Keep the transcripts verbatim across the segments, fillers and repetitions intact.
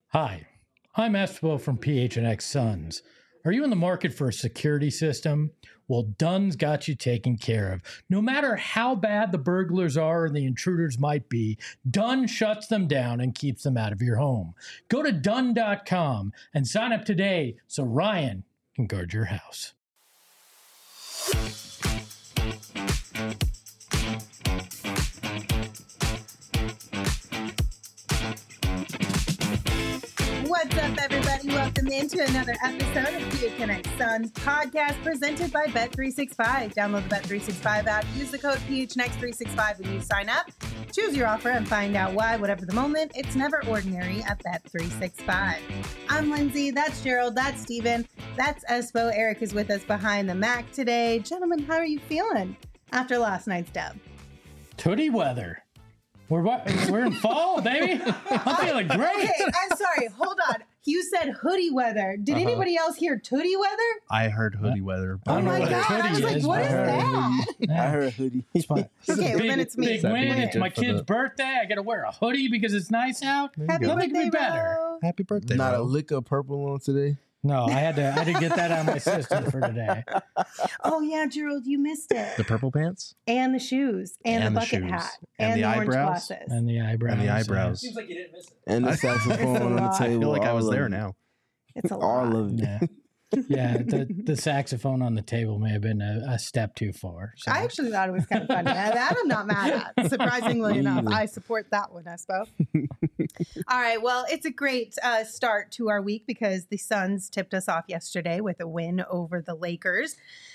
Hi, I'm Espo from P H N X Suns. Are you in the market for a security system? Well, Dunn's got you taken care of. No matter how bad the burglars are or the intruders might be, Dunn shuts them down and keeps them out of your home. Go to Dunn dot com and sign up today so Ryan can guard your house. What's up, everybody? Welcome into another episode of P H N X Suns podcast presented by Bet three sixty-five. Download the Bet three sixty-five app, use the code P H N X three sixty-five when you sign up. Choose your offer and find out why, whatever the moment, it's never ordinary at Bet three sixty-five. I'm Lindsay, that's Gerald, that's Steven, that's Espo. Eric is with us behind the Mac today. Gentlemen, how are you feeling after last night's dub? Hoodie weather. We're we're in fall, baby. I'm feeling great. Okay, I'm sorry. Hold on. You said hoodie weather. Did Uh-huh. anybody else hear tootie weather? I heard hoodie weather. Oh I don't know my what a god! I hoodie was like, is, what but is I heard that? Yeah. I heard hoodie. It's fine. Okay, well, big, then it's me. Big That'd be win. It's good my for kid's the- birthday. I got to wear a hoodie because it's nice out. Happy Nothing birthday, could be better. bro. Happy birthday, Not bro. a lick of purple on today. No, I had to. I had to get that out of my system for today. Oh yeah, Gerald, you missed it. The purple pants And the shoes, and, And the the bucket shoes. hat, And and, the the orange eyebrows. glasses. And the eyebrows. and the eyebrows. Seems like you didn't miss it. And the I- saxophone It's a on the lot. I table. I feel like I all was of there it. now. It's a lot. All of it. Yeah, yeah. The the saxophone on the table may have been a, a step too far. So. I actually thought it was kind of funny. Now, that I'm not mad at. Surprisingly Me enough, either. I support that one, Espo. All right. Well, it's a great uh, start to our week because the Suns tipped us off yesterday with a win over the Lakers.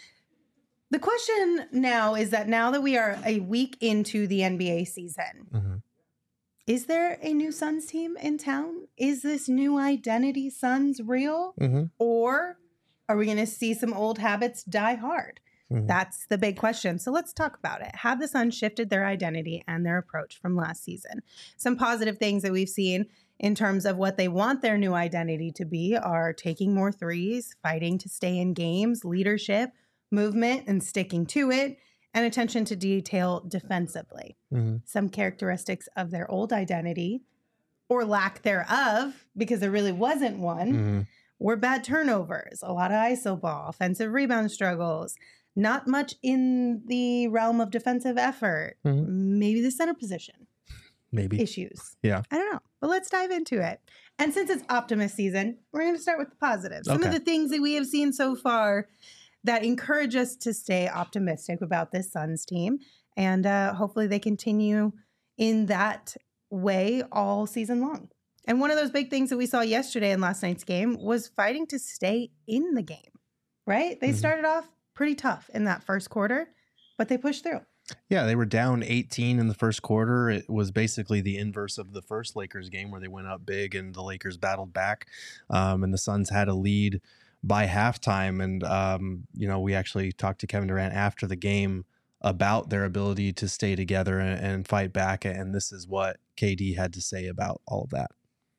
The question now is that now that we are a week into the N B A season, Mhm. is there a new Suns team in town? Is this new identity Suns real? Mhm. Or are we going to see some old habits die hard? Mhm. That's the big question. So let's talk about it. Have the Suns shifted their identity and their approach from last season? Some positive things that we've seen in terms of what they want their new identity to be are taking more threes, fighting to stay in games, leadership, movement, and sticking to it, and attention to detail defensively. Mhm. Some characteristics of their old identity or lack thereof, because there really wasn't one, Mhm. were bad turnovers, a lot of I S O ball, offensive rebound struggles, not much in the realm of defensive effort, Mhm. maybe the center position Maybe. issues. Yeah. I don't know, but let's dive into it. And since it's optimist season, we're going to start with the positives. Some of Okay. the things that we have seen so far that encourage us to stay optimistic about this Suns team. And uh, hopefully they continue in that way all season long. And one of those big things that we saw yesterday in last night's game was fighting to stay in the game, right? They Mhm. started off pretty tough in that first quarter, but they pushed through. Yeah, they were down eighteen in the first quarter. It was basically the inverse of the first Lakers game where they went up big and the Lakers battled back. Um, and the Suns had a lead by halftime. And, um, you know, we actually talked to Kevin Durant after the game about their ability to stay together and, and fight back. And this is what K D had to say about all of that.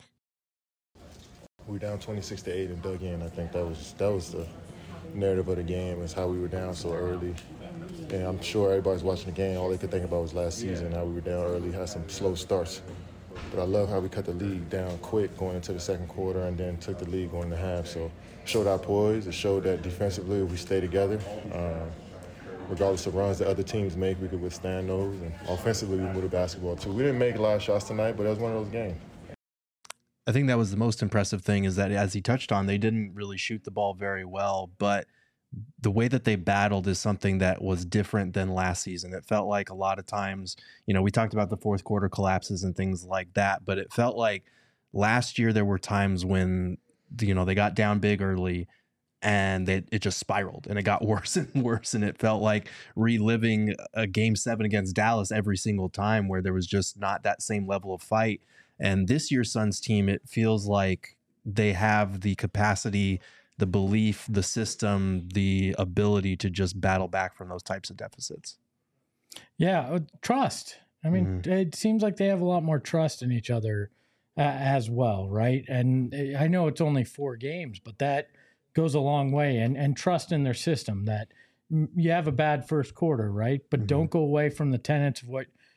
We were down twenty-six to eight and dug in. I think that was that was the narrative of the game, is how we were down so early. And I'm sure everybody's watching the game, all they could think about was last season, how we were down early, had some slow starts. But I love how we cut the lead down quick going into the second quarter and then took the lead going into half. So it showed our poise. It showed that defensively, if we stay together, um, regardless of runs that other teams make, we could withstand those. And offensively, we moved the basketball too. We didn't make a lot of shots tonight, but it was one of those games. I think that was the most impressive thing, is that, as he touched on, they didn't really shoot the ball very well, but the way that they battled is something that was different than last season. It felt like a lot of times, you know, we talked about the fourth quarter collapses and things like that, but it felt like last year there were times when, you know, they got down big early and they, it just spiraled and it got worse and worse. And it felt like reliving a game seven against Dallas every single time, where there was just not that same level of fight. And this year's Suns team, it feels like they have the capacity, the belief, the system, the ability to just battle back from those types of deficits. Yeah, uh, trust. I mean, Mhm. it seems like they have a lot more trust in each other uh, as well, right? And uh, I know it's only four games, but that goes a long way. And and trust in their system that mm, you have a bad first quarter, right? But Mhm. don't go away from the tenets of what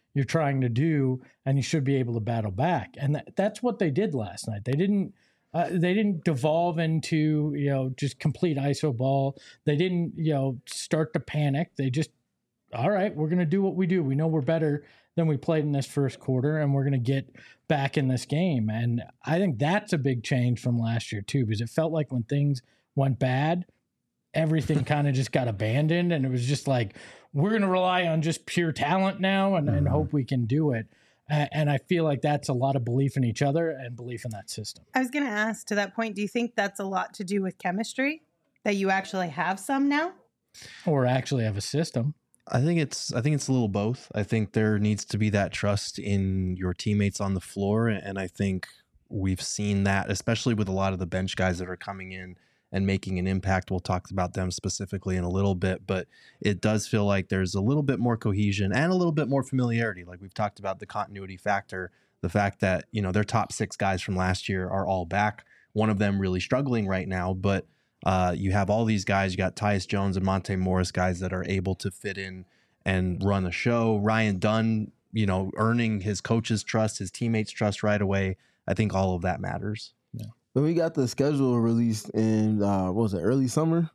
you're trying to do, and you should be able to battle back. And that, that's what they did last night. They didn't uh, they didn't devolve into, you know, just complete I S O ball. They didn't, you know, start to panic. They just, all right, we're going to do what we do. We know we're better than we played in this first quarter, and we're going to get back in this game. And I think that's a big change from last year too, because it felt like when things went bad, everything kind of just got abandoned, and it was just like, we're going to rely on just pure talent now and, and hope we can do it. And I feel like that's a lot of belief in each other and belief in that system. I was going to ask, to that point, do you think that's a lot to do with chemistry, that you actually have some now? Or actually have a system? I think it's I think it's a little both. I think there needs to be that trust in your teammates on the floor, and I think we've seen that, especially with a lot of the bench guys that are coming in and making an impact. We'll talk about them specifically in a little bit, but it does feel like there's a little bit more cohesion and a little bit more familiarity. Like we've talked about the continuity factor, the fact that, you know, their top six guys from last year are all back. One of them really struggling right now, but uh, you have all these guys. You got Tyus Jones and Monte Morris, guys that are able to fit in and run a show. Ryan Dunn, you know, earning his coach's trust, his teammates' trust right away. I think all of that matters. Yeah. When we got the schedule released in, uh, what was it, early summer?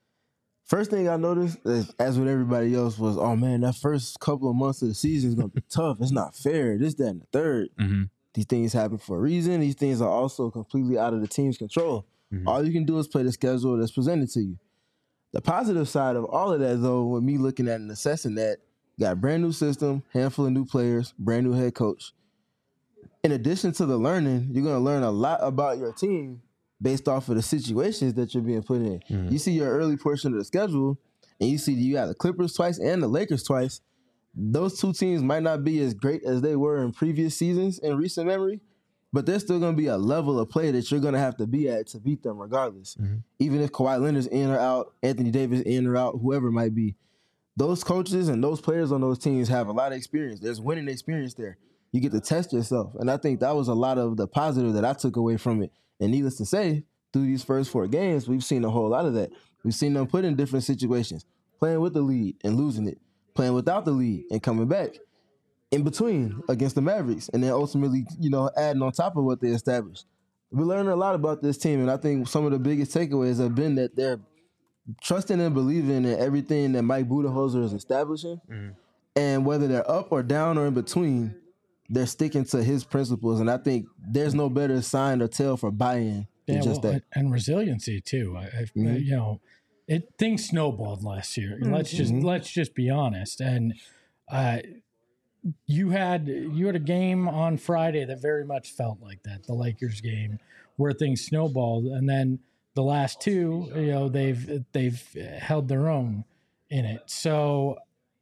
First thing I noticed, is, as with everybody else, was, oh, man, that first couple of months of the season is going to be tough. It's not fair. This, that, and the third. Mm-hmm. These things happen for a reason. These things are also completely out of the team's control. Mm-hmm. All you can do is play the schedule that's presented to you. The positive side of all of that, though, with me looking at and assessing that, got a brand new system, handful of new players, brand new head coach. In addition to the learning, you're going to learn a lot about your team based off of the situations that you're being put in. Mm-hmm. You see your early portion of the schedule, and you see you got the Clippers twice and the Lakers twice. Those two teams might not be as great as they were in previous seasons in recent memory, but there's still going to be a level of play that you're going to have to be at to beat them regardless. Mm-hmm. Even if Kawhi Leonard's in or out, Anthony Davis in or out, whoever it might be. Those coaches and those players on those teams have a lot of experience. There's winning experience there. You get to test yourself. And I think that was a lot of the positive that I took away from it. And needless to say, through these first four games, we've seen a whole lot of that. We've seen them put in different situations, playing with the lead and losing it, playing without the lead and coming back, in between against the Mavericks, and then ultimately, you know, adding on top of what they established. We're learning a lot about this team, and I think some of the biggest takeaways have been that they're trusting and believing in everything that Mike Budenholzer is establishing, mm-hmm. and whether they're up or down or in between, they're sticking to his principles, and I think there's no better sign or tell for buy-in than yeah, just well, that. And resiliency too. I, I, mm-hmm. You know, it things snowballed last year. Mm-hmm. Let's just let's just be honest. And uh, you had you had a game on Friday that very much felt like that, the Lakers game, where things snowballed, and then the last two, you know, they've they've held their own in it. So.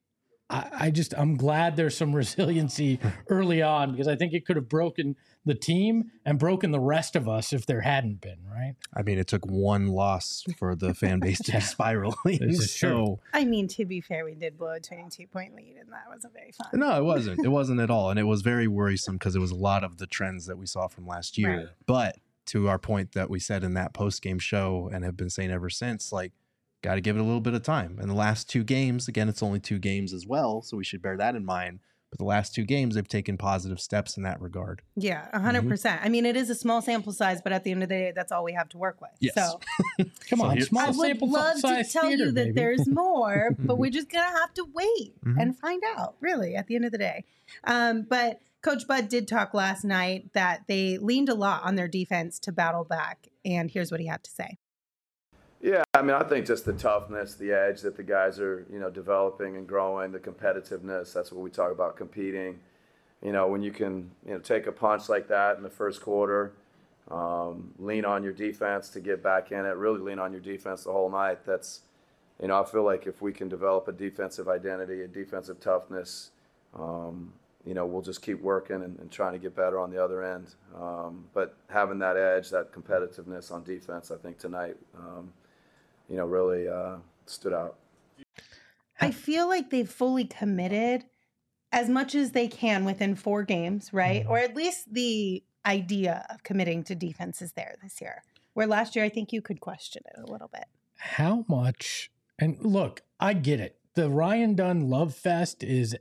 I just, I'm glad there's some resiliency early on, because I think it could have broken the team and broken the rest of us if there hadn't been, right? I mean, it took one loss for the fan base to be spiraling. So, I mean, to be fair, we did blow a twenty-two point lead, and that wasn't very fun. No, it wasn't. It wasn't at all. And it was very worrisome because it was a lot of the trends that we saw from last year. Right. But to our point that we said in that post-game show and have been saying ever since, like, got to give it a little bit of time. And the last two games, again, it's only two games as well, so we should bear that in mind. But the last two games, they've taken positive steps in that regard. Yeah, one hundred percent. Mm-hmm. I mean, it is a small sample size, but at the end of the day, that's all we have to work with. Yes. So, come on, so small I sample would love size to tell theater, you that baby. there's more, but we're just going to have to wait mm-hmm. and find out, really, at the end of the day. Um, but Coach Bud did talk last night that they leaned a lot on their defense to battle back, and here's what he had to say. Yeah, I mean, I think just the toughness, the edge that the guys are, you know, developing and growing, the competitiveness, that's what we talk about, competing. You know, when you can, you know, take a punch like that in the first quarter, um, lean on your defense to get back in it, really lean on your defense the whole night. That's, you know, I feel like if we can develop a defensive identity, a defensive toughness, um, you know, we'll just keep working and, and trying to get better on the other end. Um, but having that edge, that competitiveness on defense, I think tonight, um, you know, really uh, stood out. I feel like they've fully committed as much as they can within four games, right? Mm-hmm. Or at least the idea of committing to defense is there this year. Where last year, I think you could question it a little bit. How much? And look, I get it. The Ryan Dunn love fest is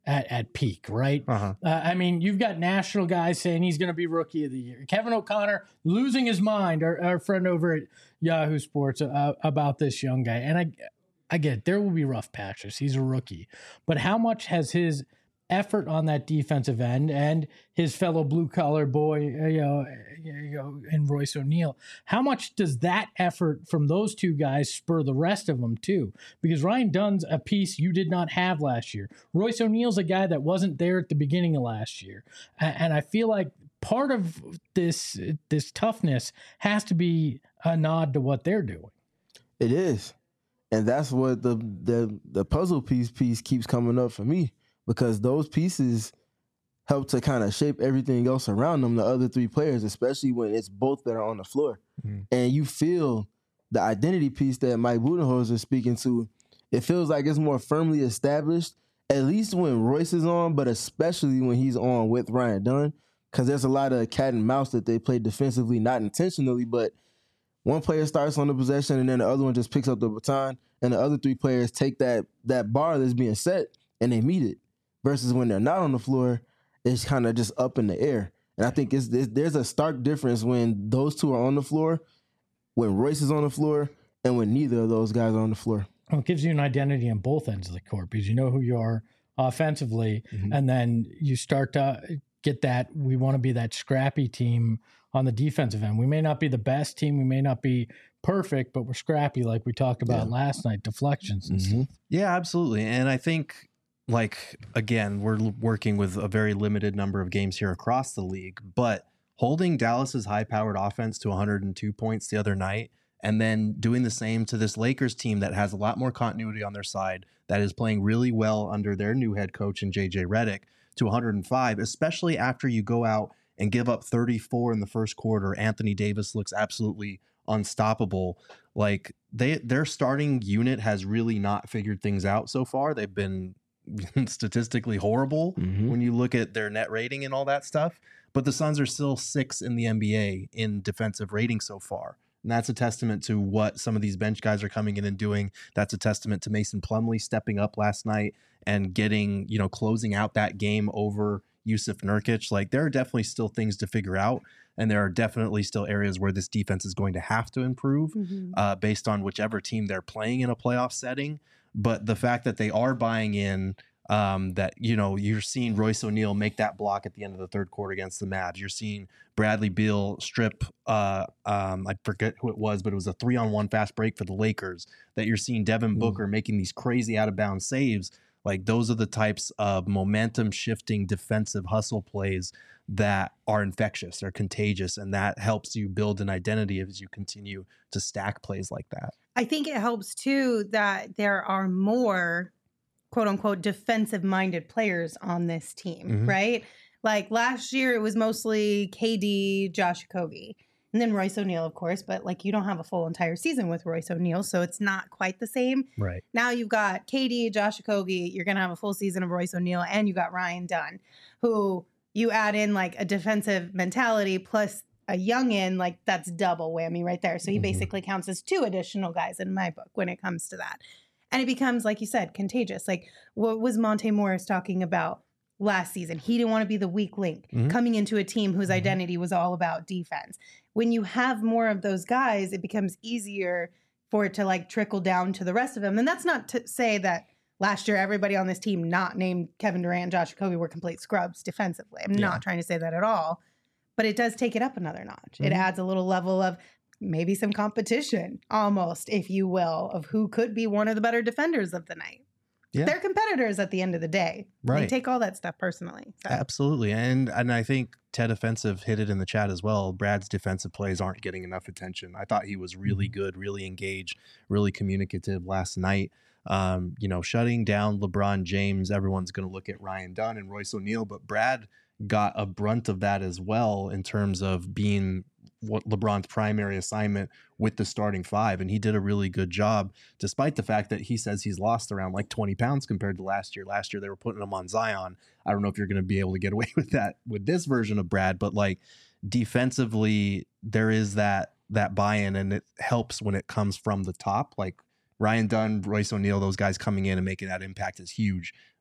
at, at peak, right? Uh-huh. Uh, I mean, you've got national guys saying he's going to be rookie of the year. Kevin O'Connor losing his mind, our, our friend over at Yahoo Sports, uh, about this young guy. And I, I get it, there will be rough patches. He's a rookie. But how much has his effort on that defensive end and his fellow blue collar boy, you know, you know, and Royce O'Neal, how much does that effort from those two guys spur the rest of them too? Because Ryan Dunn's a piece you did not have last year. Royce O'Neal's a guy that wasn't there at the beginning of last year. And I feel like part of this, this toughness has to be a nod to what they're doing. It is. And that's what the, the, the puzzle piece piece keeps coming up for me. Because those pieces help to kind of shape everything else around them, the other three players, especially when it's both that are on the floor. Mm-hmm. And you feel the identity piece that Mike Budenholzer is speaking to, it feels like it's more firmly established, at least when Royce is on, but especially when he's on with Ryan Dunn, because there's a lot of cat and mouse that they play defensively, not intentionally, but one player starts on the possession and then the other one just picks up the baton, and the other three players take that that bar that's being set and they meet it. Versus when they're not on the floor, it's kind of just up in the air. And I think it's, it's, there's a stark difference when those two are on the floor, when Royce is on the floor, and when neither of those guys are on the floor. Well, it gives you an identity on both ends of the court because you know who you are offensively, mm-hmm. and then you start to get that, we want to be that scrappy team on the defensive end. We may not be the best team, we may not be perfect, but we're scrappy like we talked about yeah. last night, deflections and mm-hmm. stuff. Yeah, absolutely. And I think, like, again, we're working with a very limited number of games here across the league, but holding Dallas's high-powered offense to one hundred two points the other night and then doing the same to this Lakers team that has a lot more continuity on their side, that is playing really well under their new head coach in J J Redick, to one hundred five, especially after you go out and give up thirty-four in the first quarter. Anthony Davis looks absolutely unstoppable. Like, they their starting unit has really not figured things out so far. They've been statistically horrible mm-hmm. when you look at their net rating and all that stuff, but the Suns are still sixth in the N B A in defensive rating so far. And that's a testament to what some of these bench guys are coming in and doing. That's a testament to Mason Plumlee stepping up last night and getting, you know, closing out that game over Yusuf Nurkic. Like, there are definitely still things to figure out. And there are definitely still areas where this defense is going to have to improve mm-hmm. uh, based on whichever team they're playing in a playoff setting. But the fact that they are buying in, um, that, you know, you're seeing Royce O'Neal make that block at the end of the third quarter against the Mavs. You're seeing Bradley Beal strip, uh, um, I forget who it was, but it was a three-on-one fast break for the Lakers. That you're seeing Devin Booker mm. making these crazy out-of-bounds saves. Like, those are the types of momentum-shifting defensive hustle plays that are infectious, they're contagious, and that helps you build an identity as you continue to stack plays like that. I think it helps too that there are more quote unquote defensive minded players on this team, mm-hmm. right? Like last year it was mostly K D, Josh Okogie, and then Royce O'Neal, of course, but like you don't have a full entire season with Royce O'Neal, so it's not quite the same. Right. Now you've got K D, Josh Okogie, you're going to have a full season of Royce O'Neal, and you got Ryan Dunn, who you add in like a defensive mentality plus a youngin, like that's double whammy right there. So he mm-hmm. basically counts as two additional guys in my book when it comes to that. And it becomes, like you said, contagious. Like what was Monte Morris talking about last season? He didn't want to be the weak link mm-hmm. coming into a team whose mm-hmm. identity was all about defense. When you have more of those guys, it becomes easier for it to like trickle down to the rest of them. And that's not to say that last year, everybody on this team not named Kevin Durant, Josh Okogie were complete scrubs defensively. I'm yeah. not trying to say that at all, but it does take it up another notch. Mm-hmm. It adds a little level of maybe some competition almost, if you will, of who could be one of the better defenders of the night. Yeah. They're competitors at the end of the day. Right. They take all that stuff personally. So. Absolutely. And and I think Ted Offensive hit it in the chat as well. Brad's defensive plays aren't getting enough attention. I thought he was really good, really engaged, really communicative last night. Um, you know, shutting down LeBron James, everyone's going to look at Ryan Dunn and Royce O'Neal, but Brad got a brunt of that as well in terms of being what LeBron's primary assignment with the starting five. And he did a really good job, despite the fact that he says he's lost around like twenty pounds compared to last year. Last year, they were putting him on Zion. I don't know if you're going to be able to get away with that with this version of Brad, but like defensively, there is that, that buy-in, and it helps when it comes from the top. Like Ryan Dunn, Royce O'Neal, those guys coming in and making that impact is huge.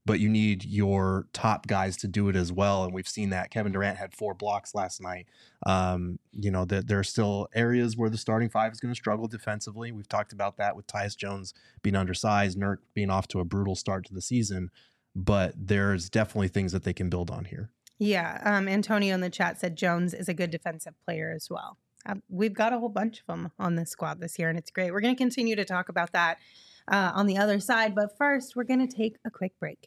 but you need your top guys to do it as well. And we've seen that. Kevin Durant had four blocks last night. Um, you know, that there are still areas where the starting five is going to struggle defensively. We've talked about that with Tyus Jones being undersized, Nurk being off to a brutal start to the season, but there's definitely things that they can build on here. Yeah. Um, Antonio in the chat said Jones is a good defensive player as well. Uh, we've got a whole bunch of them on this squad this year, and it's great. We're going to continue to talk about that uh, on the other side, but first we're going to take a quick break.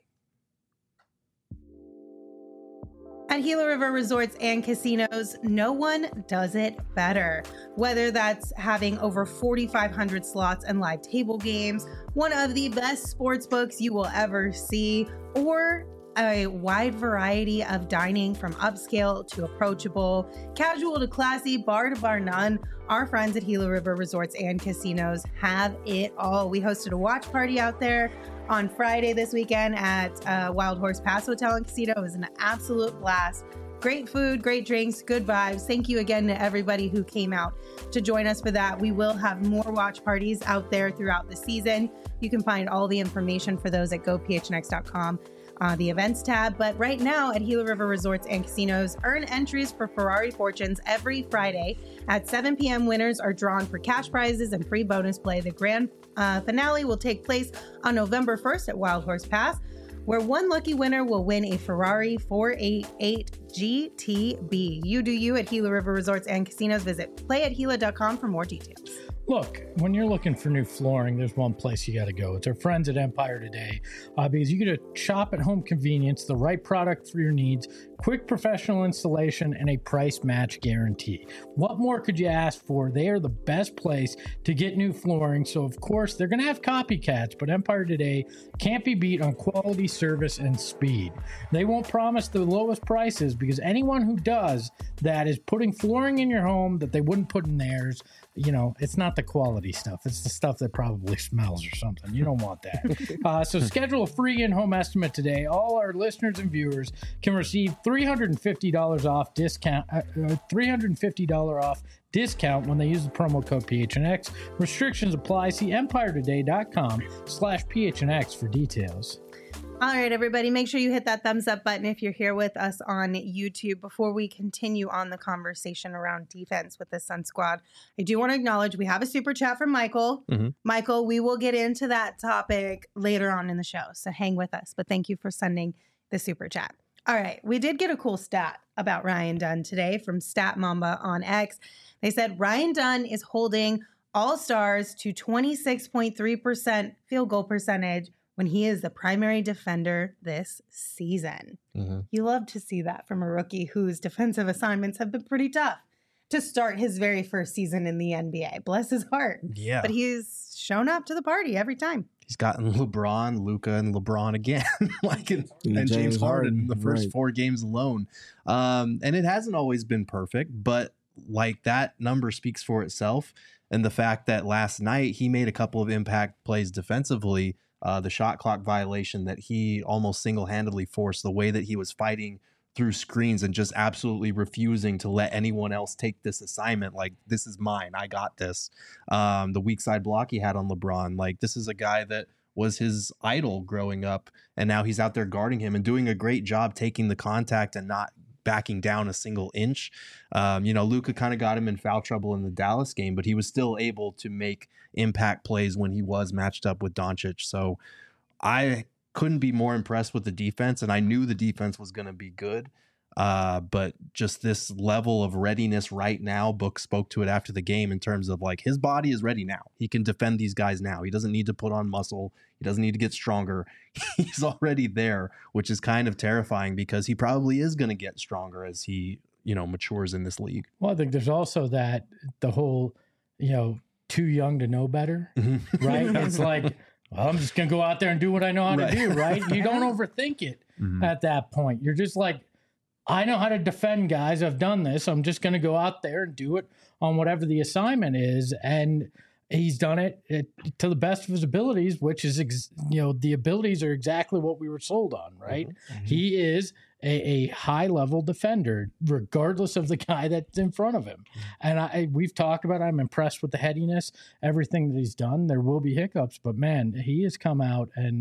At Gila River Resorts and Casinos, no one does it better. Whether that's having over forty-five hundred slots and live table games, one of the best sports books you will ever see, or a wide variety of dining from upscale to approachable, casual to classy, bar to bar none, our friends at Gila River Resorts and Casinos have it all. We hosted a watch party out there on Friday this weekend at uh, Wild Horse Pass Hotel and Casino. It was an absolute blast. Great food, great drinks, good vibes. Thank you again to everybody who came out to join us for that. We will have more watch parties out there throughout the season. You can find all the information for those at go p h n x dot com. Uh, the events tab. But right now at Gila River Resorts and Casinos, earn entries for Ferrari Fortunes every Friday at seven p.m. Winners are drawn for cash prizes and free bonus play. The grand uh, finale will take place on November first at Wild Horse Pass, where one lucky winner will win a Ferrari four eighty-eight G T B. You do you at Gila River Resorts and Casinos. Visit play at gila dot com for more details. Look, when you're looking for new flooring, there's one place you got to go. It's our friends at Empire Today, uh, because you get a shop at home convenience, the right product for your needs, quick professional installation, and a price match guarantee. What more could you ask for? They are the best place to get new flooring. So, of course, they're going to have copycats, but Empire Today can't be beat on quality, service, and speed. They won't promise the lowest prices, because anyone who does that is putting flooring in your home that they wouldn't put in theirs. You know, it's not the quality stuff. It's the stuff that probably smells or something. You don't want that. uh, so schedule a free in-home estimate today. All our listeners and viewers can receive three hundred fifty dollars off discount, uh, uh, three hundred fifty dollars off discount when they use the promo code P H N X. Restrictions apply. See empire today dot com slash P H N X for details. All right, everybody, make sure you hit that thumbs up button if you're here with us on YouTube. Before we continue on the conversation around defense with the Sun Squad, I do want to acknowledge we have a super chat from Michael. Mm-hmm. Michael, we will get into that topic later on in the show, so hang with us. But thank you for sending the super chat. All right, we did get a cool stat about Ryan Dunn today from Stat Mamba on X. They said Ryan Dunn is holding All-Stars to twenty-six point three percent field goal percentage when he is the primary defender this season. Mm-hmm. You love to see that from a rookie whose defensive assignments have been pretty tough to start his very first season in the N B A. Bless his heart. Yeah. But he's shown up to the party every time. He's gotten LeBron, Luka, and LeBron again, like in, and James, James Harden, Harden in the first right. four games alone. Um, and it hasn't always been perfect, but like that number speaks for itself. And the fact that last night he made a couple of impact plays defensively, Uh, the shot clock violation that he almost single-handedly forced, the way that he was fighting through screens and just absolutely refusing to let anyone else take this assignment. Like, this is mine. I got this. Um, the weak side block he had on LeBron. Like, this is a guy that was his idol growing up, and now he's out there guarding him and doing a great job taking the contact and not backing down a single inch. Um, you know, Luka kind of got him in foul trouble in the Dallas game, but he was still able to make impact plays when he was matched up with Doncic. So I couldn't be more impressed with the defense, and I knew the defense was going to be good. Uh, but just this level of readiness right now, Book spoke to it after the game in terms of like his body is ready now. He can defend these guys now. He doesn't need to put on muscle. He doesn't need to get stronger. He's already there, which is kind of terrifying because he probably is going to get stronger as he, you know, matures in this league. Well, I think there's also that the whole, you know, too young to know better, mm-hmm. right? It's like, well, I'm just going to go out there and do what I know how right. to do, right? You don't overthink it mm-hmm. at that point. You're just like, I know how to defend guys. I've done this. I'm just going to go out there and do it on whatever the assignment is. And he's done it, it to the best of his abilities, which is, ex, you know, the abilities are exactly what we were sold on, right? Mm-hmm. He is a, a high-level defender, regardless of the guy that's in front of him. And I, we've talked about it. I'm impressed with the headiness, everything that he's done. There will be hiccups, but, man, he has come out and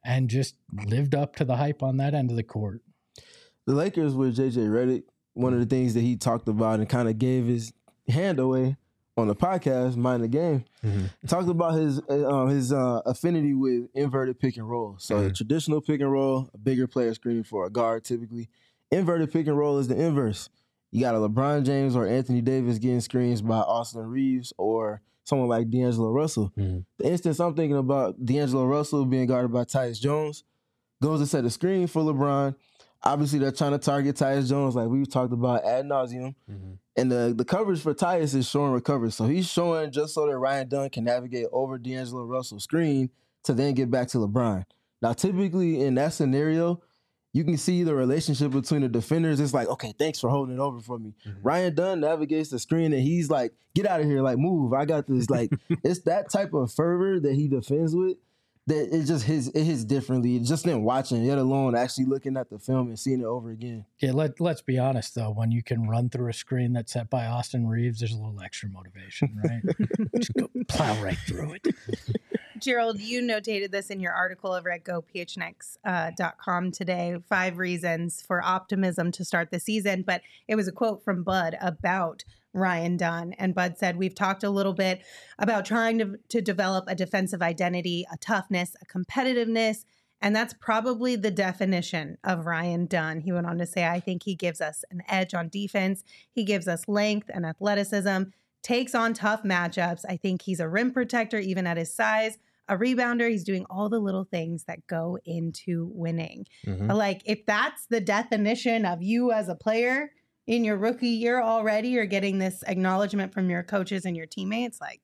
and just lived up to the hype on that end of the court. The Lakers with J J Redick, one of the things that he talked about and kind of gave his hand away on the podcast, Mind the Game, mm-hmm. talked about his uh, his uh, affinity with inverted pick and roll. So mm-hmm. a traditional pick and roll, a bigger player screening for a guard typically. Inverted pick and roll is the inverse. You got a LeBron James or Anthony Davis getting screens by Austin Reeves or someone like D'Angelo Russell. Mm-hmm. The instance I'm thinking about D'Angelo Russell being guarded by Tyus Jones, goes to set a screen for LeBron. Obviously, they're trying to target Tyus Jones like we've talked about ad nauseum. Mm-hmm. And the, the coverage for Tyus is showing recovery. So he's showing just so that Ryan Dunn can navigate over D'Angelo Russell's screen to then get back to LeBron. Now, typically in that scenario, you can see the relationship between the defenders. It's like, okay, thanks for holding it over for me. Mm-hmm. Ryan Dunn navigates the screen and he's like, get out of here, like move. I got this. Like it's that type of fervor that he defends with that it just hits, it hits differently. Just in watching, yet alone actually looking at the film and seeing it over again. Yeah, let, let's be honest, though. When you can run through a screen that's set by Austin Reeves, there's a little extra motivation, right? Just go plow right through it. Gerald, you notated this in your article over at go p h n x dot com today, five reasons for optimism to start the season. But it was a quote from Bud about Ryan Dunn. And Bud said, we've talked a little bit about trying to, to develop a defensive identity, a toughness, a competitiveness. And that's probably the definition of Ryan Dunn. He went on to say, I think he gives us an edge on defense. He gives us length and athleticism, takes on tough matchups. I think he's a rim protector, even at his size, a rebounder. He's doing all the little things that go into winning. Mm-hmm. Like, if that's the definition of you as a player in your rookie year already, you're getting this acknowledgement from your coaches and your teammates, like,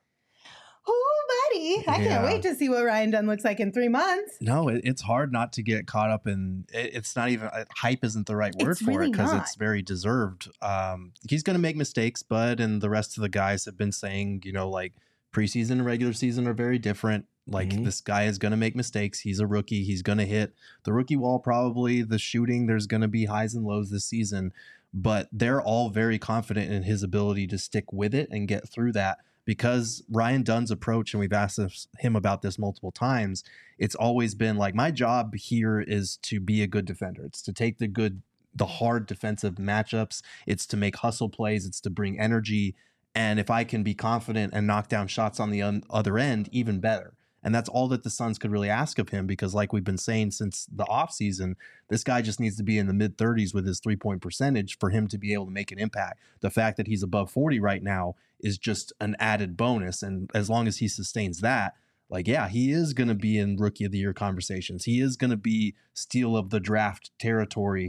oh, buddy, I yeah. can't wait to see what Ryan Dunn looks like in three months. No, it, it's hard not to get caught up in, it, it's not even, uh, hype isn't the right word it's for really it because not. It's very deserved. Um, he's going to make mistakes, Bud and the rest of the guys have been saying, you know, like preseason and regular season are very different. Like mm-hmm. this guy is going to make mistakes. He's a rookie. He's going to hit the rookie wall, probably the shooting. There's going to be highs and lows this season. But they're all very confident in his ability to stick with it and get through that because Ryan Dunn's approach, and we've asked him about this multiple times, it's always been like, my job here is to be a good defender. It's to take the good, the hard defensive matchups. It's to make hustle plays. It's to bring energy. And if I can be confident and knock down shots on the un- other end, even better. And that's all that the Suns could really ask of him because like we've been saying since the offseason, this guy just needs to be in the mid thirties with his three-point percentage for him to be able to make an impact. The fact that he's above forty right now is just an added bonus. And as long as he sustains that, like, yeah, he is going to be in Rookie of the Year conversations. He is going to be steal of the draft territory.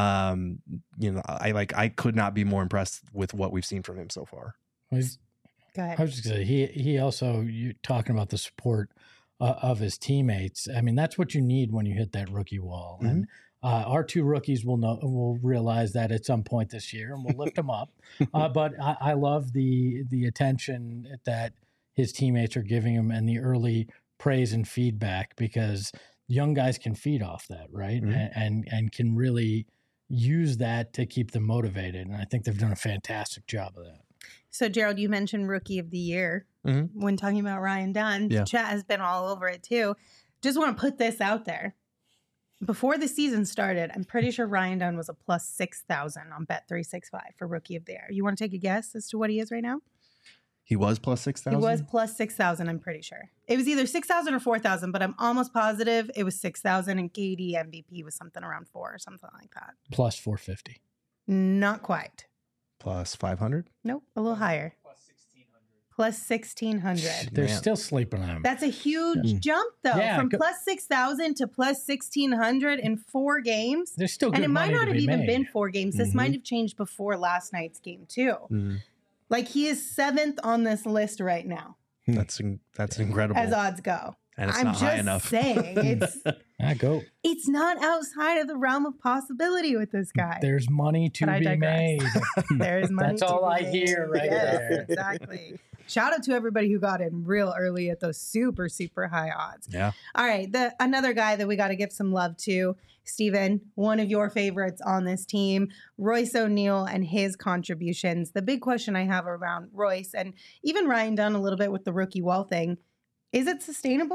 Um, you know, I like I could not be more impressed with what we've seen from him so far. He's, Go ahead. I was just gonna say, he he also, you talking about the support uh, of his teammates. I mean, that's what you need when you hit that rookie wall. Mm-hmm. And uh, our two rookies will know will realize that at some point this year, and we'll lift them up. Uh, but I, I love the the attention that his teammates are giving him and the early praise and feedback because young guys can feed off that, right? Mm-hmm. And, and and can really use that to keep them motivated. And I think they've done a fantastic job of that. So, Gerald, you mentioned Rookie of the Year mm-hmm. when talking about Ryan Dunn. Yeah. Chat has been all over it, too. Just want to put this out there. Before the season started, I'm pretty sure Ryan Dunn was a plus six thousand on Bet three sixty-five for Rookie of the Year. You want to take a guess as to what he is right now? He was plus six thousand? He was plus six thousand, I'm pretty sure. It was either six thousand or four thousand, but I'm almost positive it was six thousand, and K D M V P was something around four or something like that. Plus four fifty. Not quite. Plus five hundred? Nope, a little higher. Plus sixteen hundred. Plus sixteen hundred. They're Man. still sleeping on him. That's a huge Yeah. jump, though, Yeah, from go- plus six thousand to plus sixteen hundred in four games. There's still good And it might money not to have be even made. been four games. This Mhm. might have changed before last night's game, too. Mm-hmm. Like, he is seventh on this list right now, That's in, that's incredible. as odds go. and it's I'm not just high enough. saying, it's Ah, go. it's not outside of the realm of possibility with this guy. There's money to But I be digress. made. There is money. That's to all be I made. hear right Yes, there. Exactly. Shout out to everybody who got in real early at those super, super high odds. Yeah. All right. The another guy that we got to give some love to, Steven, one of your favorites on this team, Royce O'Neal and his contributions. The big question I have around Royce and even Ryan Dunn a little bit with the rookie wall thing, is it sustainable?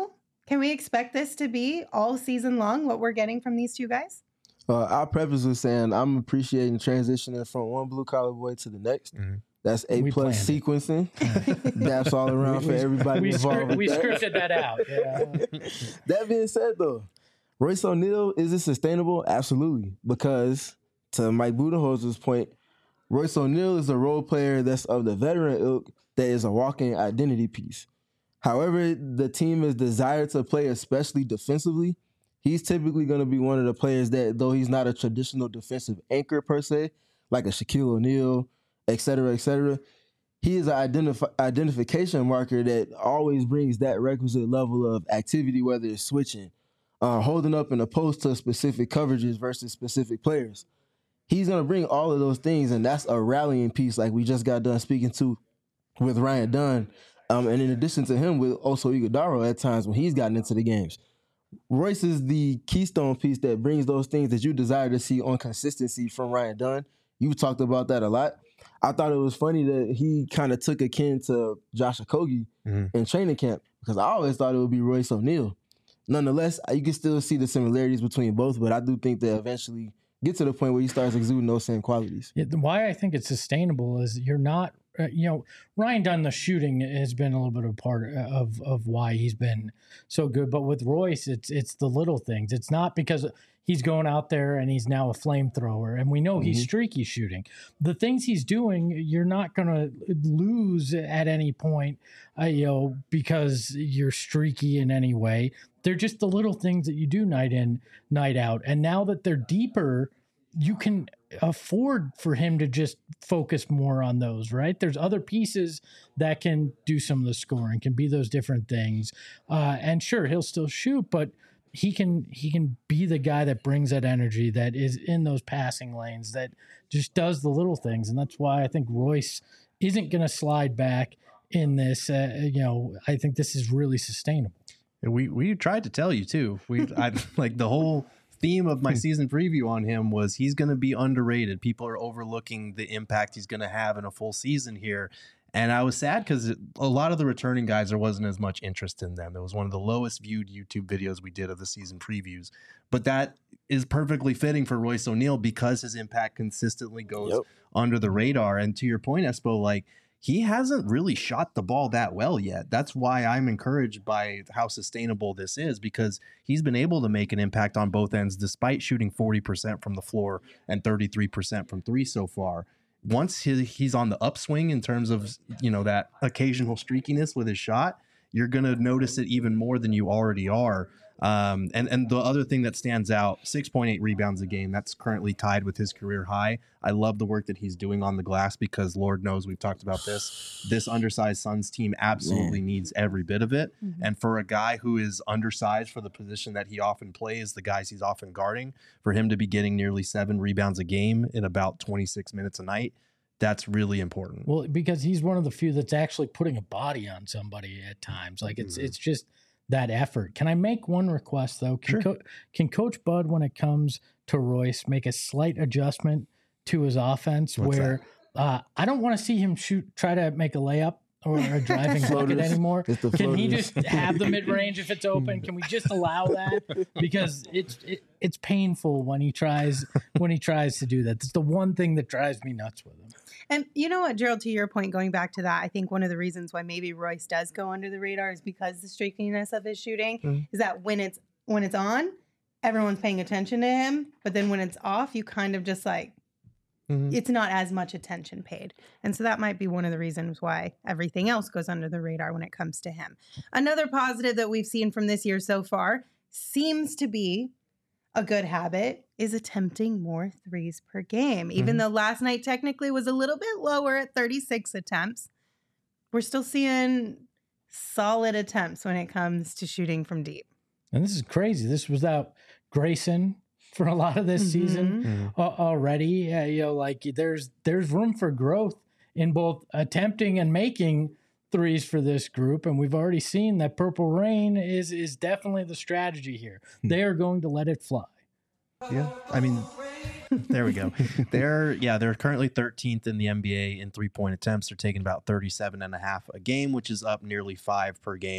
Can we expect this to be all season long, what we're getting from these two guys? Uh, I'll preface with saying I'm appreciating transitioning from one blue collar boy to the next. Mm-hmm. That's A We plus planned sequencing. Daps all around for everybody We, involved. scri- with we that. scripted that out. Yeah. That being said, though, Royce O'Neal, is it sustainable? Absolutely. Because to Mike Budenholzer's point, Royce O'Neal is a role player that's of the veteran ilk that is a walking identity piece. However, the team is desired to play, especially defensively. He's typically going to be one of the players that, though he's not a traditional defensive anchor per se, like a Shaquille O'Neal, et cetera, et cetera, he is an identif- identification marker that always brings that requisite level of activity, whether it's switching, uh, holding up in a post to specific coverages versus specific players. He's going to bring all of those things, and that's a rallying piece like we just got done speaking to with Ryan Dunn. Um, and in addition to him, with also Iguodala at times when he's gotten into the games. Royce is the keystone piece that brings those things that you desire to see on consistency from Ryan Dunn. You've talked about that a lot. I thought it was funny that he kind of took a kin to Josh Okogie mm-hmm. in training camp because I always thought it would be Royce O'Neal. Nonetheless, you can still see the similarities between both, but I do think they eventually get to the point where he starts exuding those same qualities. Yeah, why I think it's sustainable is you're not, uh, you know, Ryan Dunn, the shooting has been a little bit of a part of of why he's been so good. But with Royce, it's it's the little things. It's not because he's going out there and he's now a flamethrower, and we know mm-hmm. he's streaky shooting. The things he's doing, you're not going to lose at any point, uh, you know, because you're streaky in any way. They're just the little things that you do night in, night out. And now that they're deeper, you can afford for him to just focus more on those, right? There's other pieces that can do some of the scoring, can be those different things. Uh, and sure, he'll still shoot, but he can he can be the guy that brings that energy, that is in those passing lanes, that just does the little things. And that's why I think Royce isn't going to slide back in this. Uh, you know, I think this is really sustainable. We we tried to tell you too. We I like the whole theme of my season preview on him was he's going to be underrated. People are overlooking the impact he's going to have in a full season here. And I was sad because a lot of the returning guys, there wasn't as much interest in them. It was one of the lowest viewed YouTube videos we did of the season previews. But that is perfectly fitting for Royce O'Neal because his impact consistently goes yep. under the radar. And to your point, Espo, like, he hasn't really shot the ball that well yet. That's why I'm encouraged by how sustainable this is, because he's been able to make an impact on both ends despite shooting forty percent from the floor and thirty-three percent from three so far. Once he, he's on the upswing in terms of, you know, that occasional streakiness with his shot, you're going to notice it even more than you already are. Um, and, and the other thing that stands out, six point eight rebounds a game, that's currently tied with his career high. I love the work that he's doing on the glass because Lord knows we've talked about this. This undersized Suns team absolutely Man. needs every bit of it. Mm-hmm. And for a guy who is undersized for the position that he often plays, the guys he's often guarding, for him to be getting nearly seven rebounds a game in about twenty-six minutes a night, that's really important. Well, because he's one of the few that's actually putting a body on somebody at times. Like it's mm-hmm. it's just that effort. Can I make one request though? Can, sure. Co- can Coach Bud, when it comes to Royce, make a slight adjustment to his offense What's where uh, I don't want to see him shoot, try to make a layup or a driving bucket anymore? Can he just have the mid range if it's open? Can we just allow that? Because it's it, it's painful when he tries when he tries to do that. That's the one thing that drives me nuts with him. And you know what, Gerald, to your point, going back to that, I think one of the reasons why maybe Royce does go under the radar is because the streakiness of his shooting mm-hmm. is that when it's when it's on, everyone's paying attention to him. But then when it's off, you kind of just like, mm-hmm. it's not as much attention paid. And so that might be one of the reasons why everything else goes under the radar when it comes to him. Another positive that we've seen from this year so far seems to be a good habit is attempting more threes per game. Even mm-hmm. though last night technically was a little bit lower at thirty-six attempts, we're still seeing solid attempts when it comes to shooting from deep. And this is crazy. This was without Grayson for a lot of this mm-hmm. season mm-hmm. uh, already. Uh, you know, like there's there's room for growth in both attempting and making threes for this group, and we've already seen that Purple Rain is is definitely the strategy here. They are going to let it fly. Yeah, I mean, there we go. They're yeah, they're currently thirteenth in the N B A in three-point attempts. They're taking about thirty-seven and a half a game, which is up nearly five per game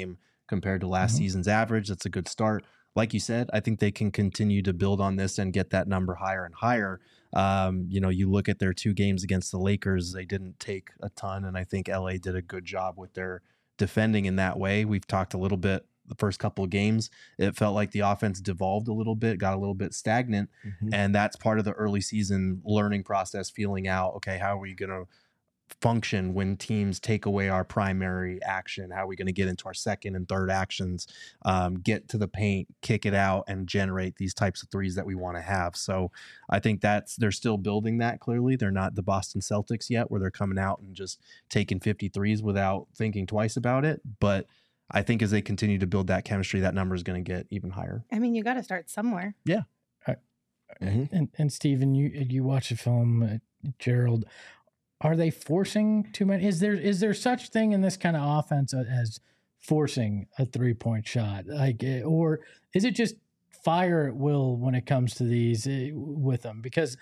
compared to last mm-hmm. season's average. That's a good start. Like you said, I think they can continue to build on this and get that number higher and higher. Um, you know, you look at their two games against the Lakers, they didn't take a ton, and I think L A did a good job with their defending in that way. We've talked a little bit the first couple of games. It felt like the offense devolved a little bit, got a little bit stagnant, mm-hmm. and that's part of the early season learning process, feeling out, okay, how are we going to function when teams take away our primary action? How are we going to get into our second and third actions, um, get to the paint, kick it out, and generate these types of threes that we want to have? So I think that's, they're still building that. Clearly they're not the Boston Celtics yet, where they're coming out and just taking fifty threes without thinking twice about it. But I think as they continue to build that chemistry, that number is going to get even higher. I mean, you got to start somewhere. Yeah. Uh, mm-hmm. And, and Steven, you, you watch the film, uh, Gerald, are they forcing too many? Is there is there such thing in this kind of offense as forcing a three-point shot? Like, or is it just fire at will when it comes to these uh, with them? Because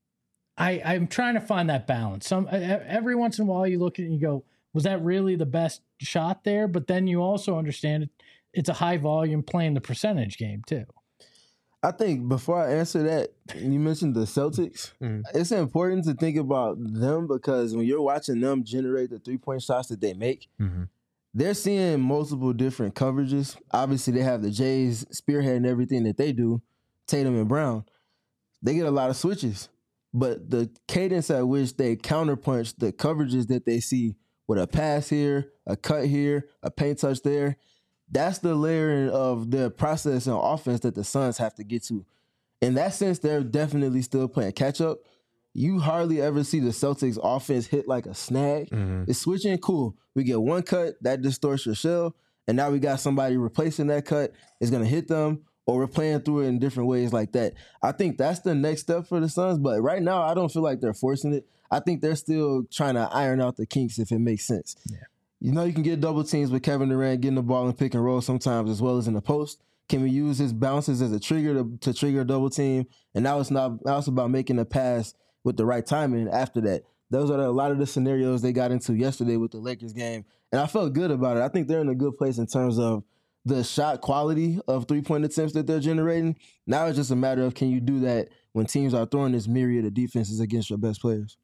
I, I'm trying to find that balance. Some every once in a while you look at it and you go, was that really the best shot there? But then you also understand it, it's a high volume playing the percentage game too. I think before I answer that, you mentioned the Celtics. Mm. It's important to think about them because when you're watching them generate the three-point shots that they make, mm-hmm. they're seeing multiple different coverages. Obviously, they have the Jays spearheading everything that they do, Tatum and Brown. They get a lot of switches. But the cadence at which they counterpunch the coverages that they see with a pass here, a cut here, a paint touch there, that's the layering of the process and offense that the Suns have to get to. In that sense, they're definitely still playing catch-up. You hardly ever see the Celtics offense hit like a snag. Mm-hmm. It's switching, cool. We get one cut, that distorts your shell, and now we got somebody replacing that cut. It's going to hit them, or we're playing through it in different ways like that. I think that's the next step for the Suns, but right now I don't feel like they're forcing it. I think they're still trying to iron out the kinks if it makes sense. Yeah. You know, you can get double teams with Kevin Durant getting the ball and pick and roll sometimes as well as in the post. Can we use his bounces as a trigger to, to trigger a double team? And now it's not now it's about making a pass with the right timing after that. Those are a lot of the scenarios they got into yesterday with the Lakers game. And I felt good about it. I think they're in a good place in terms of the shot quality of three-point attempts that they're generating. Now it's just a matter of, can you do that when teams are throwing this myriad of defenses against your best players?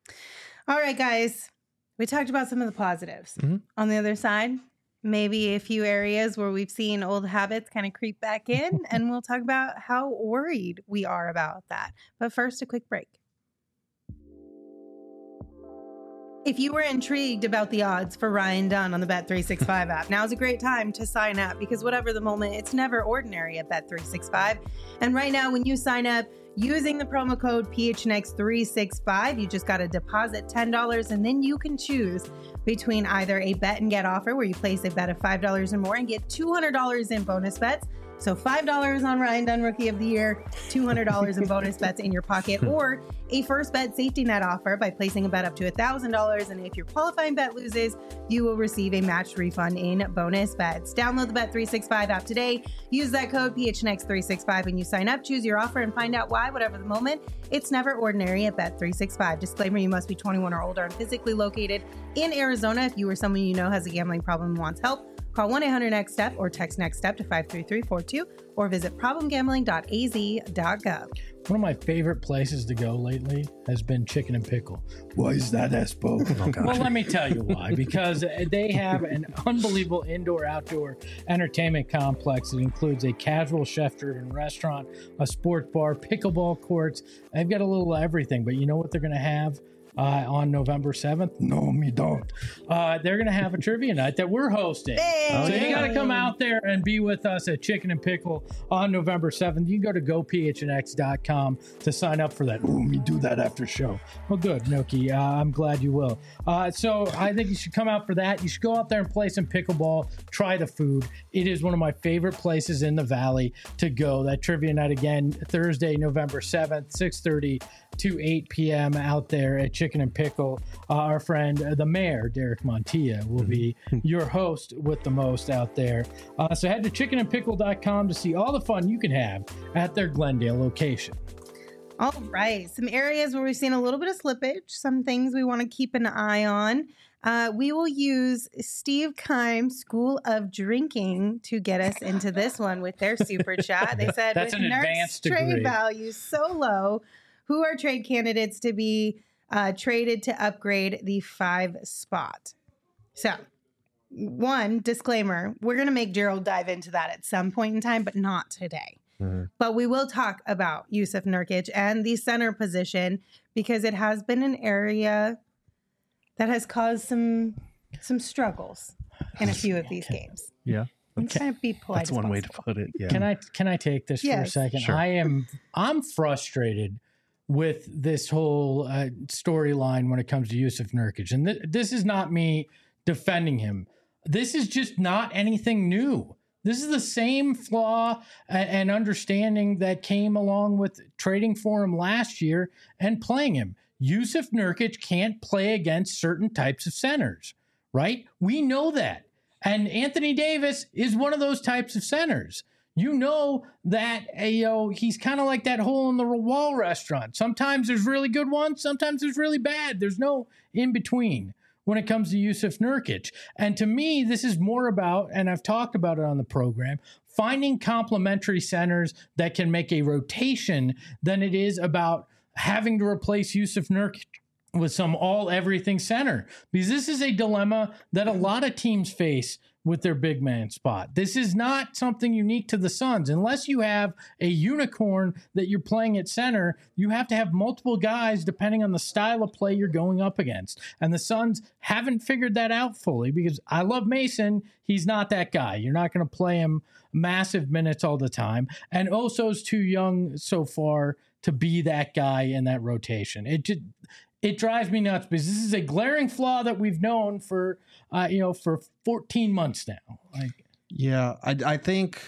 All right, guys. We talked about some of the positives. Mm-hmm. On the other side, maybe a few areas where we've seen old habits kind of creep back in, and we'll talk about how worried we are about that. But first, a quick break. If you were intrigued about the odds for Ryan Dunn on the Bet three sixty-five app, now's a great time to sign up because whatever the moment, it's never ordinary at Bet three sixty-five. And right now, when you sign up using the promo code P H N X three sixty-five, you just got to deposit ten dollars and then you can choose between either a bet and get offer where you place a bet of five dollars or more and get two hundred dollars in bonus bets. So five dollars on Ryan Dunn Rookie of the Year, two hundred dollars in bonus bets in your pocket, or a first bet safety net offer by placing a bet up to one thousand dollars. And if your qualifying bet loses, you will receive a matched refund in bonus bets. Download the Bet three sixty-five app today. Use that code P H N X three sixty-five when you sign up. Choose your offer and find out why, whatever the moment. It's never ordinary at Bet three sixty-five. Disclaimer, you must be twenty-one or older and physically located in Arizona. If you or someone you know has a gambling problem and wants help, call one eight hundred next step or text NEXTSTEP to five three three four two or visit problem gambling dot a z dot gov. One of my favorite places to go lately has been Chicken and Pickle. Why is that, Espo? Oh, well, let me tell you why. Because they have an unbelievable indoor-outdoor entertainment complex that includes a casual chef-driven restaurant, a sports bar, pickleball courts. They've got a little of everything, but you know what they're going to have? Uh, on November seventh. No, me don't. Uh, they're going to have a trivia night that we're hosting. Hey. So you got to come out there and be with us at Chicken and Pickle on November seventh. You can go to go P H N X dot com to sign up for that. Oh, me do that after show. Well, good, Noki. Uh, I'm glad you will. Uh, so I think you should come out for that. You should go out there and play some pickleball. Try the food. It is one of my favorite places in the Valley to go. That trivia night again, Thursday, November seventh, six thirty to eight p.m. out there at Chicken and Pickle. Uh, our friend, uh, the mayor, Derek Montilla, will be your host with the most out there. Uh, so head to chicken and pickle dot com to see all the fun you can have at their Glendale location. All right. Some areas where we've seen a little bit of slippage, some things we want to keep an eye on. Uh, we will use Steve Keim's School of Drinking to get us into this one with their super chat. They said, That's with an Nurk's advanced trade degree. value so low, who are trade candidates to be uh, traded to upgrade the five spot? So, one disclaimer, we're going to make Gerald dive into that at some point in time, but not today. Mm-hmm. But we will talk about Yusuf Nurkic and the center position because it has been an area that has caused some some struggles in a few of these games. Yeah. I'm trying to be polite. That's as one way to possible. put it. Yeah. Can I can I take this for a Yes. second? Sure. I am I'm frustrated with this whole uh, storyline when it comes to Yusuf Nurkic, and th- this is not me defending him. This is just not anything new. This is the same flaw and, and understanding that came along with trading for him last year and playing him. Yusuf Nurkic can't play against certain types of centers, right? We know that. And Anthony Davis is one of those types of centers. You know that uh, you know he's kind of like that hole in the wall restaurant. Sometimes there's really good ones, sometimes there's really bad. There's no in between when it comes to Yusuf Nurkic. And to me, this is more about, and I've talked about it on the program, finding complementary centers that can make a rotation than it is about having to replace Yusuf Nurkic with some all everything center, because this is a dilemma that a lot of teams face with their big man spot. This is not something unique to the Suns. Unless you have a unicorn that you're playing at center, you have to have multiple guys depending on the style of play you're going up against. And the Suns haven't figured that out fully, because I love Mason. He's not that guy. You're not going to play him massive minutes all the time. And Oso's too young so far to be that guy in that rotation. It just, it drives me nuts, because this is a glaring flaw that we've known for, uh, you know, for fourteen months now. Like, Yeah, I, I think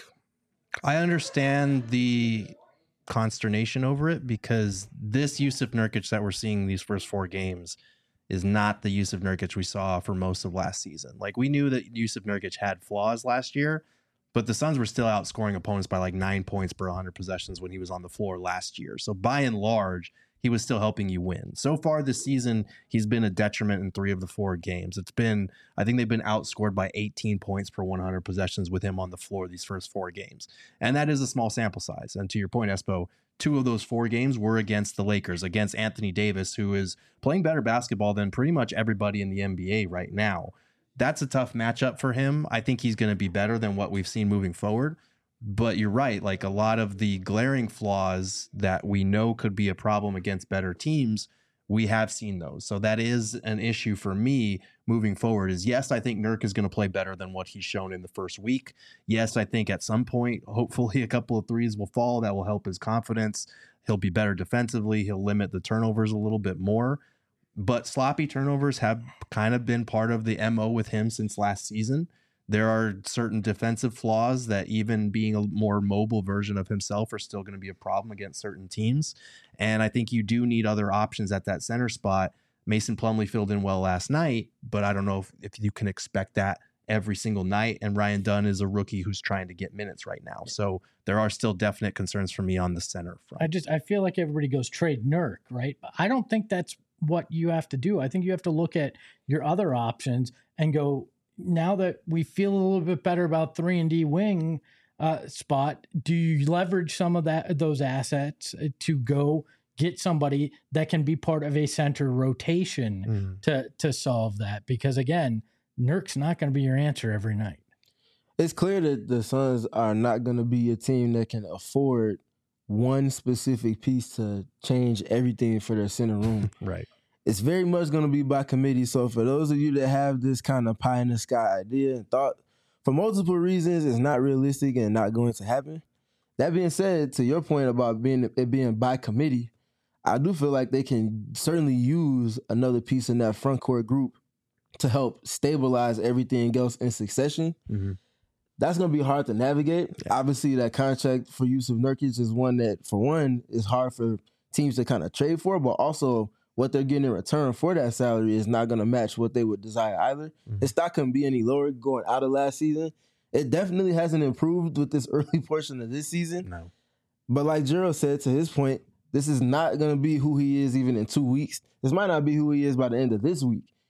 I understand the consternation over it, because this Yusuf Nurkic that we're seeing these first four games is not the Yusuf Nurkic we saw for most of last season. Like, we knew that Yusuf Nurkic had flaws last year, but the Suns were still outscoring opponents by like nine points per one hundred possessions when he was on the floor last year. So by and large, he was still helping you win. So far this season, he's been a detriment in three of the four games. It's been, I think they've been outscored by eighteen points per one hundred possessions with him on the floor these first four games. And that is a small sample size. And to your point, Espo, two of those four games were against the Lakers, against Anthony Davis, who is playing better basketball than pretty much everybody in the N B A right now. That's a tough matchup for him. I think he's going to be better than what we've seen moving forward. But you're right. Like, a lot of the glaring flaws that we know could be a problem against better teams, we have seen those. So that is an issue for me moving forward. Is yes, I think Nurk is going to play better than what he's shown in the first week. Yes, I think at some point, hopefully a couple of threes will fall. That will help his confidence. He'll be better defensively. He'll limit the turnovers a little bit more. But sloppy turnovers have kind of been part of the M O with him since last season. There are certain defensive flaws that, even being a more mobile version of himself, are still going to be a problem against certain teams. And I think you do need other options at that center spot. Mason Plumlee filled in well last night, but I don't know if, if you can expect that every single night. And Ryan Dunn is a rookie who's trying to get minutes right now. So there are still definite concerns for me on the center front. I just, I feel like everybody goes trade Nurk, right? But I don't think that's what you have to do. I think you have to look at your other options and go, now that we feel a little bit better about three and D wing uh, spot, do you leverage some of that, those assets to go get somebody that can be part of a center rotation mm. to, to solve that? Because again, Nurk's not going to be your answer every night. It's clear that the Suns are not going to be a team that can afford one specific piece to change everything for their center room. Right. It's very much going to be by committee. So for those of you that have this kind of pie in the sky idea and thought, for multiple reasons, it's not realistic and not going to happen. That being said, to your point about being it being by committee, I do feel like they can certainly use another piece in that front court group to help stabilize everything else in succession. Mm-hmm. That's going to be hard to navigate. Yeah. Obviously, that contract for Yusuf Nurkic is one that, for one, is hard for teams to kind of trade for, but also what they're getting in return for that salary is not going to match what they would desire either. Mm-hmm. His stock couldn't be any lower going out of last season. It definitely hasn't improved with this early portion of this season. No. But like Gerald said, to his point, this is not going to be who he is even in two weeks. This might not be who he is by the end of this week.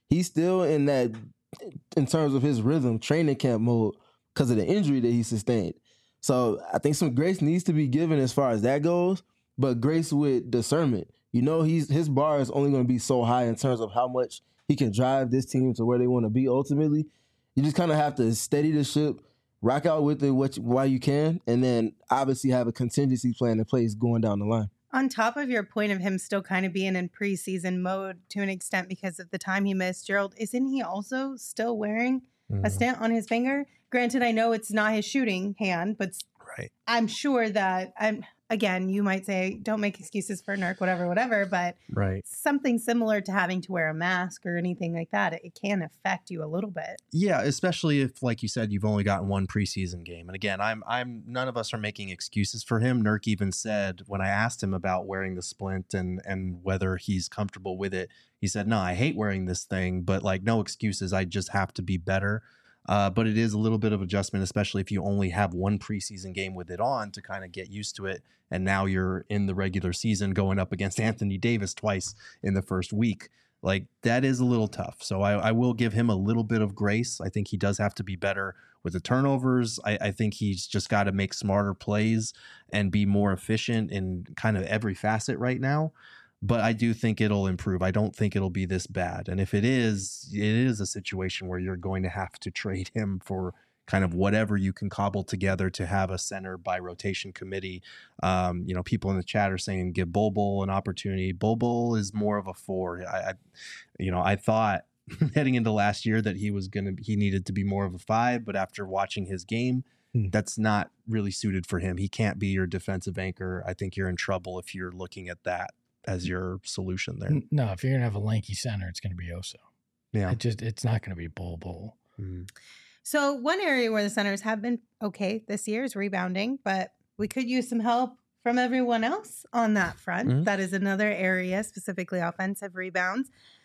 he's still in that, in terms of his rhythm, training camp mode because of the injury that he sustained. So I think some grace needs to be given as far as that goes, but grace with discernment. You know, he's his bar is only going to be so high in terms of how much he can drive this team to where they want to be ultimately. You just kind of have to steady the ship, rock out with it what, while you can, and then obviously have a contingency plan in place going down the line. On top of your point of him still kind of being in preseason mode to an extent because of the time he missed, Gerald, isn't he also still wearing mm. a stent on his finger? Granted, I know it's not his shooting hand, but right. I'm sure that, I'm again, you might say, don't make excuses for Nurk, whatever, whatever, but right. something similar to having to wear a mask or anything like that, it, it can affect you a little bit. Yeah, especially if, like you said, you've only gotten one preseason game. And again, I'm, I'm, none of us are making excuses for him. Nurk even said when I asked him about wearing the splint and and whether he's comfortable with it, he said, "No, I hate wearing this thing, but like no excuses. I just have to be better." Uh, but it is a little bit of adjustment, especially if you only have one preseason game with it on to kind of get used to it. And now you're in the regular season going up against Anthony Davis twice in the first week. Like that is a little tough. So I, I will give him a little bit of grace. I think he does have to be better with the turnovers. I, I think he's just got to make smarter plays and be more efficient in kind of every facet right now. But I do think it'll improve. I don't think it'll be this bad. And if it is, it is a situation where you're going to have to trade him for kind of whatever you can cobble together to have a center by rotation committee. Um, you know, people in the chat are saying give Bol Bol an opportunity. Bol Bol is more of a four. I, I you know, I thought heading into last year that he was going to, he needed to be more of a five, but after watching his game, hmm. that's not really suited for him. He can't be your defensive anchor. I think you're in trouble if you're looking at that as your solution there. No, if you're gonna have a lanky center, it's gonna be Oso. Yeah, it just it's not gonna be Bol Bol. Mm-hmm. So one area where the centers have been okay this year is rebounding, but we could use some help from everyone else on that front. Mm-hmm. That is another area, specifically offensive rebounds,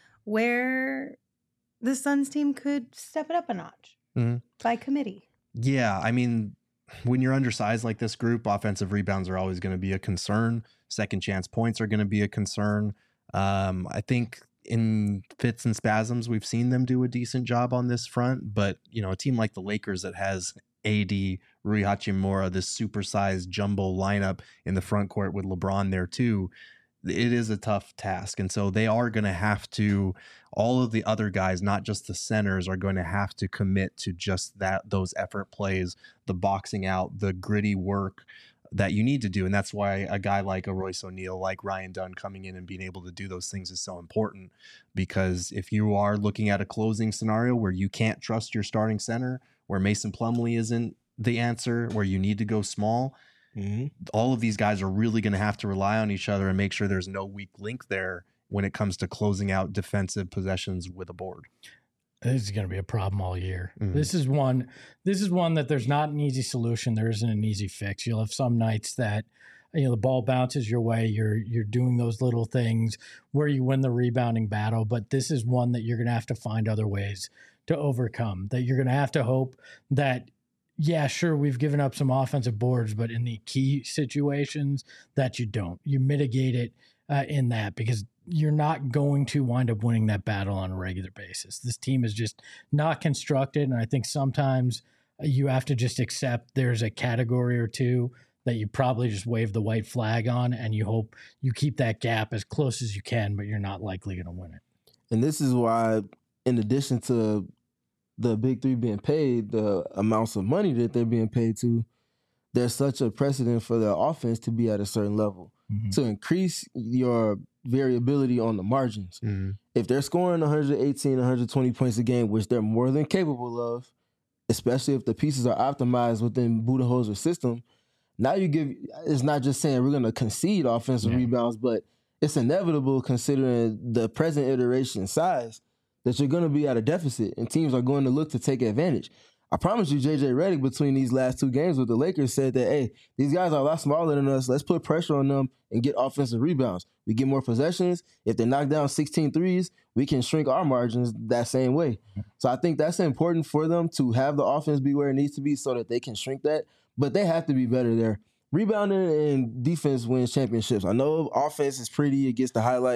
where the Suns team could step it up a notch mm-hmm. by committee. Yeah, I mean, when you're undersized like this group, offensive rebounds are always going to be a concern. Second chance points are going to be a concern. Um, I think in fits and spasms, we've seen them do a decent job on this front. But, you know, a team like the Lakers that has A D, Rui Hachimura, this supersized jumbo lineup in the front court with LeBron there too, it is a tough task. And so they are going to have to, all of the other guys, not just the centers, are going to have to commit to just that, those effort plays, the boxing out, the gritty work that you need to do. And that's why a guy like a Royce O'Neal, like Ryan Dunn coming in and being able to do those things is so important. Because if you are looking at a closing scenario where you can't trust your starting center, where Mason Plumlee isn't the answer, where you need to go small, mm-hmm. all of these guys are really going to have to rely on each other and make sure there's no weak link there when it comes to closing out defensive possessions with a board. This is going to be a problem all year. Mm-hmm. This is one. This is one that there's not an easy solution. There isn't an easy fix. You'll have some nights that, you know, the ball bounces your way. You're you're doing those little things where you win the rebounding battle. But this is one that you're going to have to find other ways to overcome. That you're going to have to hope that, yeah, sure, we've given up some offensive boards, but in the key situations that you don't, you mitigate it uh, in that, because you're not going to wind up winning that battle on a regular basis. This team is just not constructed. And I think sometimes you have to just accept there's a category or two that you probably just wave the white flag on, and you hope you keep that gap as close as you can, but you're not likely going to win it. And this is why, in addition to the big three being paid, the amounts of money that they're being paid to, there's such a precedent for their offense to be at a certain level mm-hmm. to increase your variability on the margins. Mm-hmm. If they're scoring one eighteen, one twenty points a game, which they're more than capable of, especially if the pieces are optimized within Budenholzer's system, now you give, it's not just saying we're going to concede offensive yeah. rebounds, but it's inevitable considering the present iteration size that you're going to be at a deficit and teams are going to look to take advantage. I promise you, J J Redick, between these last two games with the Lakers, said that, hey, these guys are a lot smaller than us. Let's put pressure on them and get offensive rebounds. We get more possessions. If they knock down sixteen threes, we can shrink our margins that same way. So I think that's important for them to have the offense be where it needs to be so that they can shrink that. But they have to be better there. Rebounding and defense wins championships. I know offense is pretty. It gets the highlights.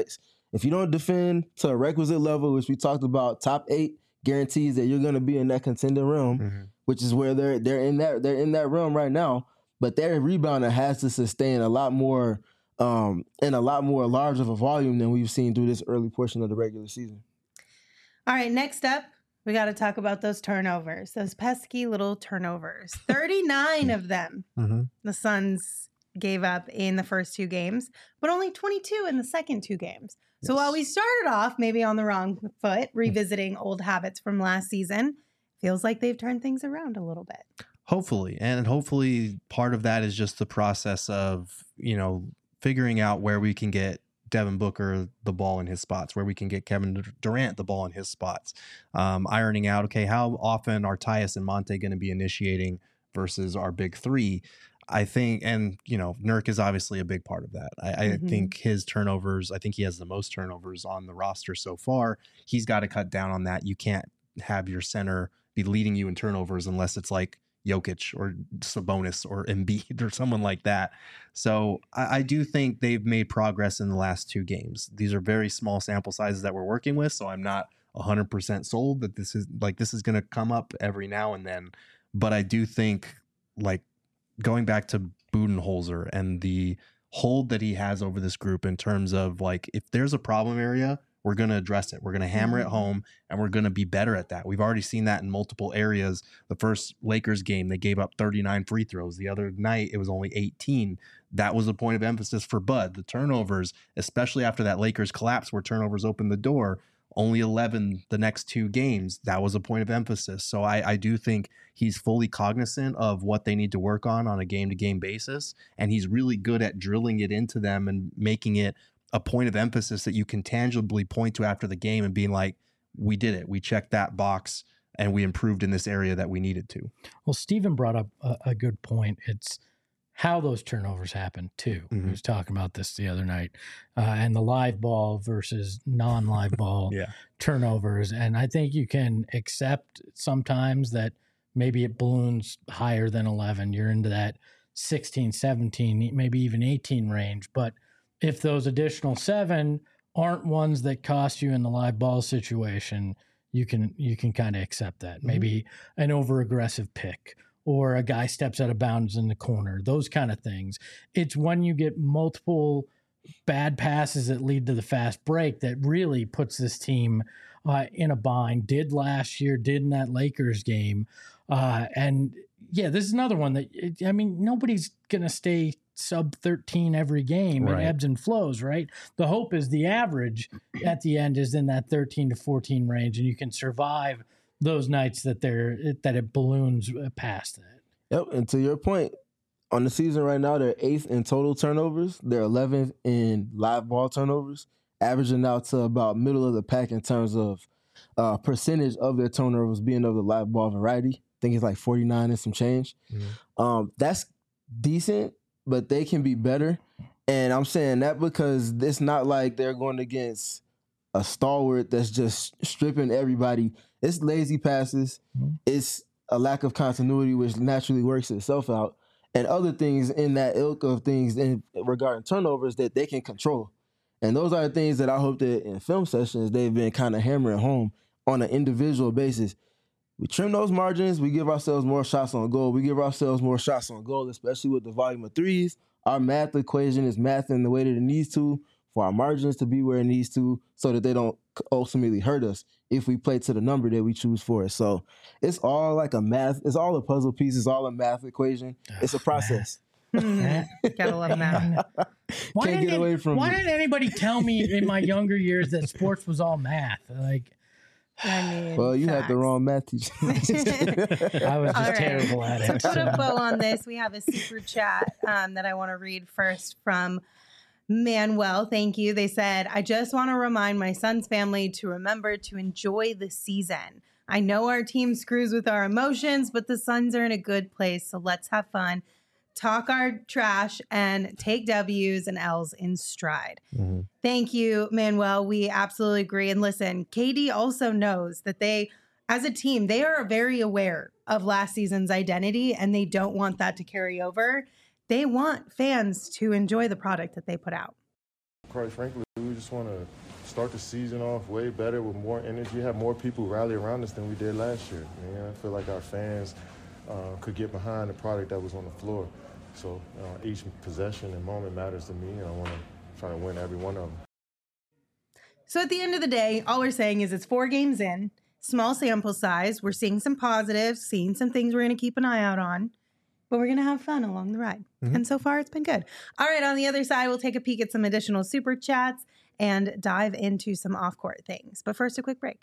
If you don't defend to a requisite level, which we talked about, top eight guarantees that you're going to be in that contending realm, mm-hmm. which is where they're they're in that they're in that realm right now. But their rebounder has to sustain a lot more um, and a lot more large of a volume than we've seen through this early portion of the regular season. All right, next up, we got to talk about those turnovers, those pesky little turnovers. thirty-nine of them mm-hmm. the Suns gave up in the first two games, but only twenty-two in the second two games. So yes. while we started off maybe on the wrong foot, revisiting old habits from last season, feels like they've turned things around a little bit. Hopefully. And hopefully part of that is just the process of, you know, figuring out where we can get Devin Booker the ball in his spots, where we can get Kevin Durant the ball in his spots, um, ironing out, okay, how often are Tyus and Monte going to be initiating versus our big three? I think, and, you know, Nurk is obviously a big part of that. I, mm-hmm. I think his turnovers, I think he has the most turnovers on the roster so far. He's got to cut down on that. You can't have your center be leading you in turnovers unless it's like Jokic or Sabonis or Embiid or someone like that. So I, I do think they've made progress in the last two games. These are very small sample sizes that we're working with, so I'm not one hundred percent sold that this is like this is going to come up every now and then. But I do think, like, going back to Budenholzer and the hold that he has over this group in terms of, like, if there's a problem area, we're going to address it. We're going to hammer it home, and we're going to be better at that. We've already seen that in multiple areas. The first Lakers game, they gave up thirty-nine free throws. The other night, it was only eighteen. That was a point of emphasis for Bud. The turnovers, especially after that Lakers collapse where turnovers opened the door, only eleven the next two games. That was a point of emphasis. So I, I do think he's fully cognizant of what they need to work on on a game-to-game basis, and he's really good at drilling it into them and making it a point of emphasis that you can tangibly point to after the game and being like, we did it. We checked that box and we improved in this area that we needed to. Well, Stephen brought up a, a good point. It's how those turnovers happen too. Mm-hmm. We was talking about this the other night, uh, and the live ball versus non-live ball yeah. turnovers. And I think you can accept sometimes that maybe it balloons higher than eleven. You're into that sixteen, seventeen, maybe even eighteen range. But if those additional seven aren't ones that cost you in the live ball situation, you can you can kind of accept that. Mm-hmm. Maybe an over-aggressive pick or a guy steps out of bounds in the corner, those kind of things. It's when you get multiple bad passes that lead to the fast break that really puts this team uh, in a bind. Did last year, did in that Lakers game. Uh, and, yeah, this is another one that, it, I mean, nobody's going to stay sub thirteen every game. Right. It ebbs and flows, right? The hope is the average at the end is in that thirteen to fourteen range, and you can survive those nights that they're that it balloons past that. Yep, and to your point, on the season right now, they're eighth in total turnovers. They're eleventh in live ball turnovers, averaging out to about middle of the pack in terms of uh, percentage of their turnovers being of the live ball variety. I think it's like forty-nine and some change. Mm-hmm. Um, that's decent, but they can be better. And I'm saying that because it's not like they're going against a stalwart that's just stripping everybody. It's lazy passes. Mm-hmm. It's a lack of continuity, which naturally works itself out, and other things in that ilk of things in regarding turnovers that they can control. And those are the things that I hope that in film sessions they've been kind of hammering home on an individual basis. We trim those margins. We give ourselves more shots on goal. We give ourselves more shots on goal, especially with the volume of threes. Our math equation is mathing the way that it needs to for our margins to be where it needs to so that they don't ultimately hurt us if we play to the number that we choose for it. So it's all like a math. It's all a puzzle piece. It's all a math equation. It's a process. Gotta love math. Why Can't get it, away from Why it. didn't anybody tell me in my younger years that sports was all math? Like, I mean, well, you facts. had the wrong math teacher. I was just right. terrible at it. To put a bow on this, we have a super chat um, that I want to read first from Manuel. Thank you. They said, I just want to remind my son's family to remember to enjoy the season. I know our team screws with our emotions, but the Suns are in a good place, so let's have fun, talk our trash, and take W's and L's in stride. Mm-hmm. Thank you, Manuel. We absolutely agree. And listen, K D also knows that they, as a team, they are very aware of last season's identity, and they don't want that to carry over. They want fans to enjoy the product that they put out. Quite frankly, we just want to start the season off way better with more energy, have more people rally around us than we did last year. You know, I feel like our fans uh, could get behind the product that was on the floor. So uh, each possession and moment matters to me, and I want to try to win every one of them. So at the end of the day, all we're saying is it's four games in, small sample size. We're seeing some positives, seeing some things we're going to keep an eye out on, but we're going to have fun along the ride. Mm-hmm. And so far, it's been good. All right, on the other side, we'll take a peek at some additional super chats and dive into some off-court things. But first, a quick break.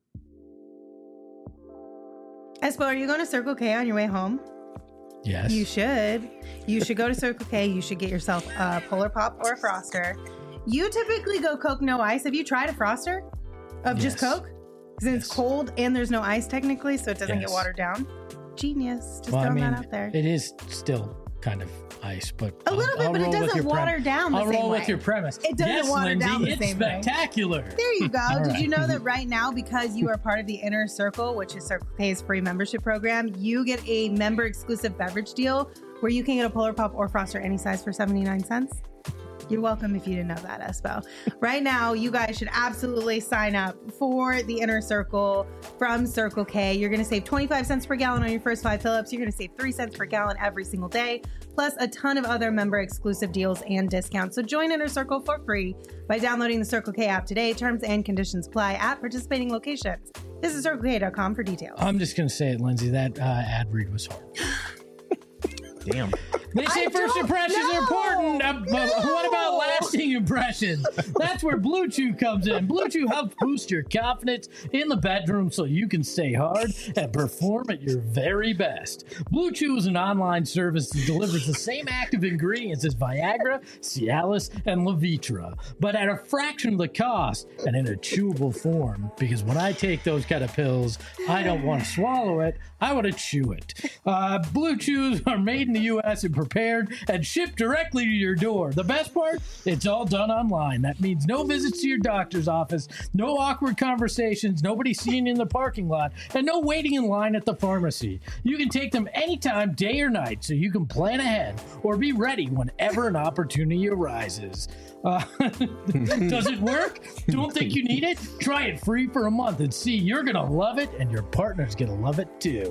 Espo, are you going to Circle K on your way home? Yes. You should. You should go to Circle K. You should get yourself a Polar Pop or a Froster. You typically go Coke, no ice. Have you tried a Froster of Yes. just Coke? Because Yes. it's cold and there's no ice technically, so it doesn't Yes. get watered down. Genius. Just Well, I throwing mean, that out there. it is still kind of ice, but A little I'll, bit, I'll but it roll with doesn't your water prem- down the I'll same roll way. with your premise. It doesn't yes, water Lindsay, down the it's same way. spectacular. There you go. All Did right. you know that right now, because you are part of the Inner Circle, which is Circle K's free membership program, you get a member exclusive beverage deal where you can get a Polar Pop or Froster any size for seventy-nine cents? You're welcome if you didn't know that, Espo. Right now, you guys should absolutely sign up for the Inner Circle from Circle K. You're going to save twenty-five cents per gallon on your first five fill-ups. You're going to save three cents per gallon every single day, plus a ton of other member exclusive deals and discounts. So join Inner Circle for free by downloading the Circle K app today. Terms and conditions apply at participating locations. Visit circle k dot com for details. I'm just going to say it, Lindsay. That uh, ad read was hard. Damn. They say I first don't impressions know. are important, uh, but No. what about lasting impressions? That's where Blue Chew comes in. Blue Chew helps boost your confidence in the bedroom so you can stay hard and perform at your very best. Blue Chew is an online service that delivers the same active ingredients as Viagra, Cialis, and Levitra, but at a fraction of the cost and in a chewable form. Because when I take those kind of pills, I don't want to swallow it. I want to chew it. Uh, Blue Chews are made in the U S and prepared and shipped directly to your door. The best part? It's all done online. That means no visits to your doctor's office, no awkward conversations, nobody seeing you in the parking lot, and no waiting in line at the pharmacy. You can take them anytime, day or night, so you can plan ahead or be ready whenever an opportunity arises. Uh, does it work? Don't think you need it? Try it free for a month and see. You're going to love it, and your partner's going to love it too.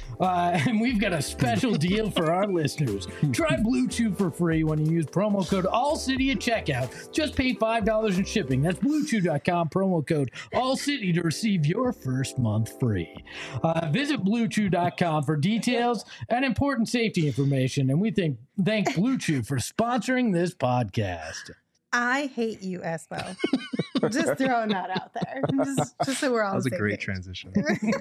Uh, and we've got a special deal for our listeners. Try Blue Chew for free when you use promo code ALLCITY at checkout. Just pay five dollars in shipping. That's blue chew dot com, promo code ALLCITY to receive your first month free. Uh, visit blue chew dot com for details and important safety information. And we think thank Blue Chew for sponsoring this podcast. I hate you, Espo. Just throwing that out there. Just, just so we're all That was on a the same great page. transition.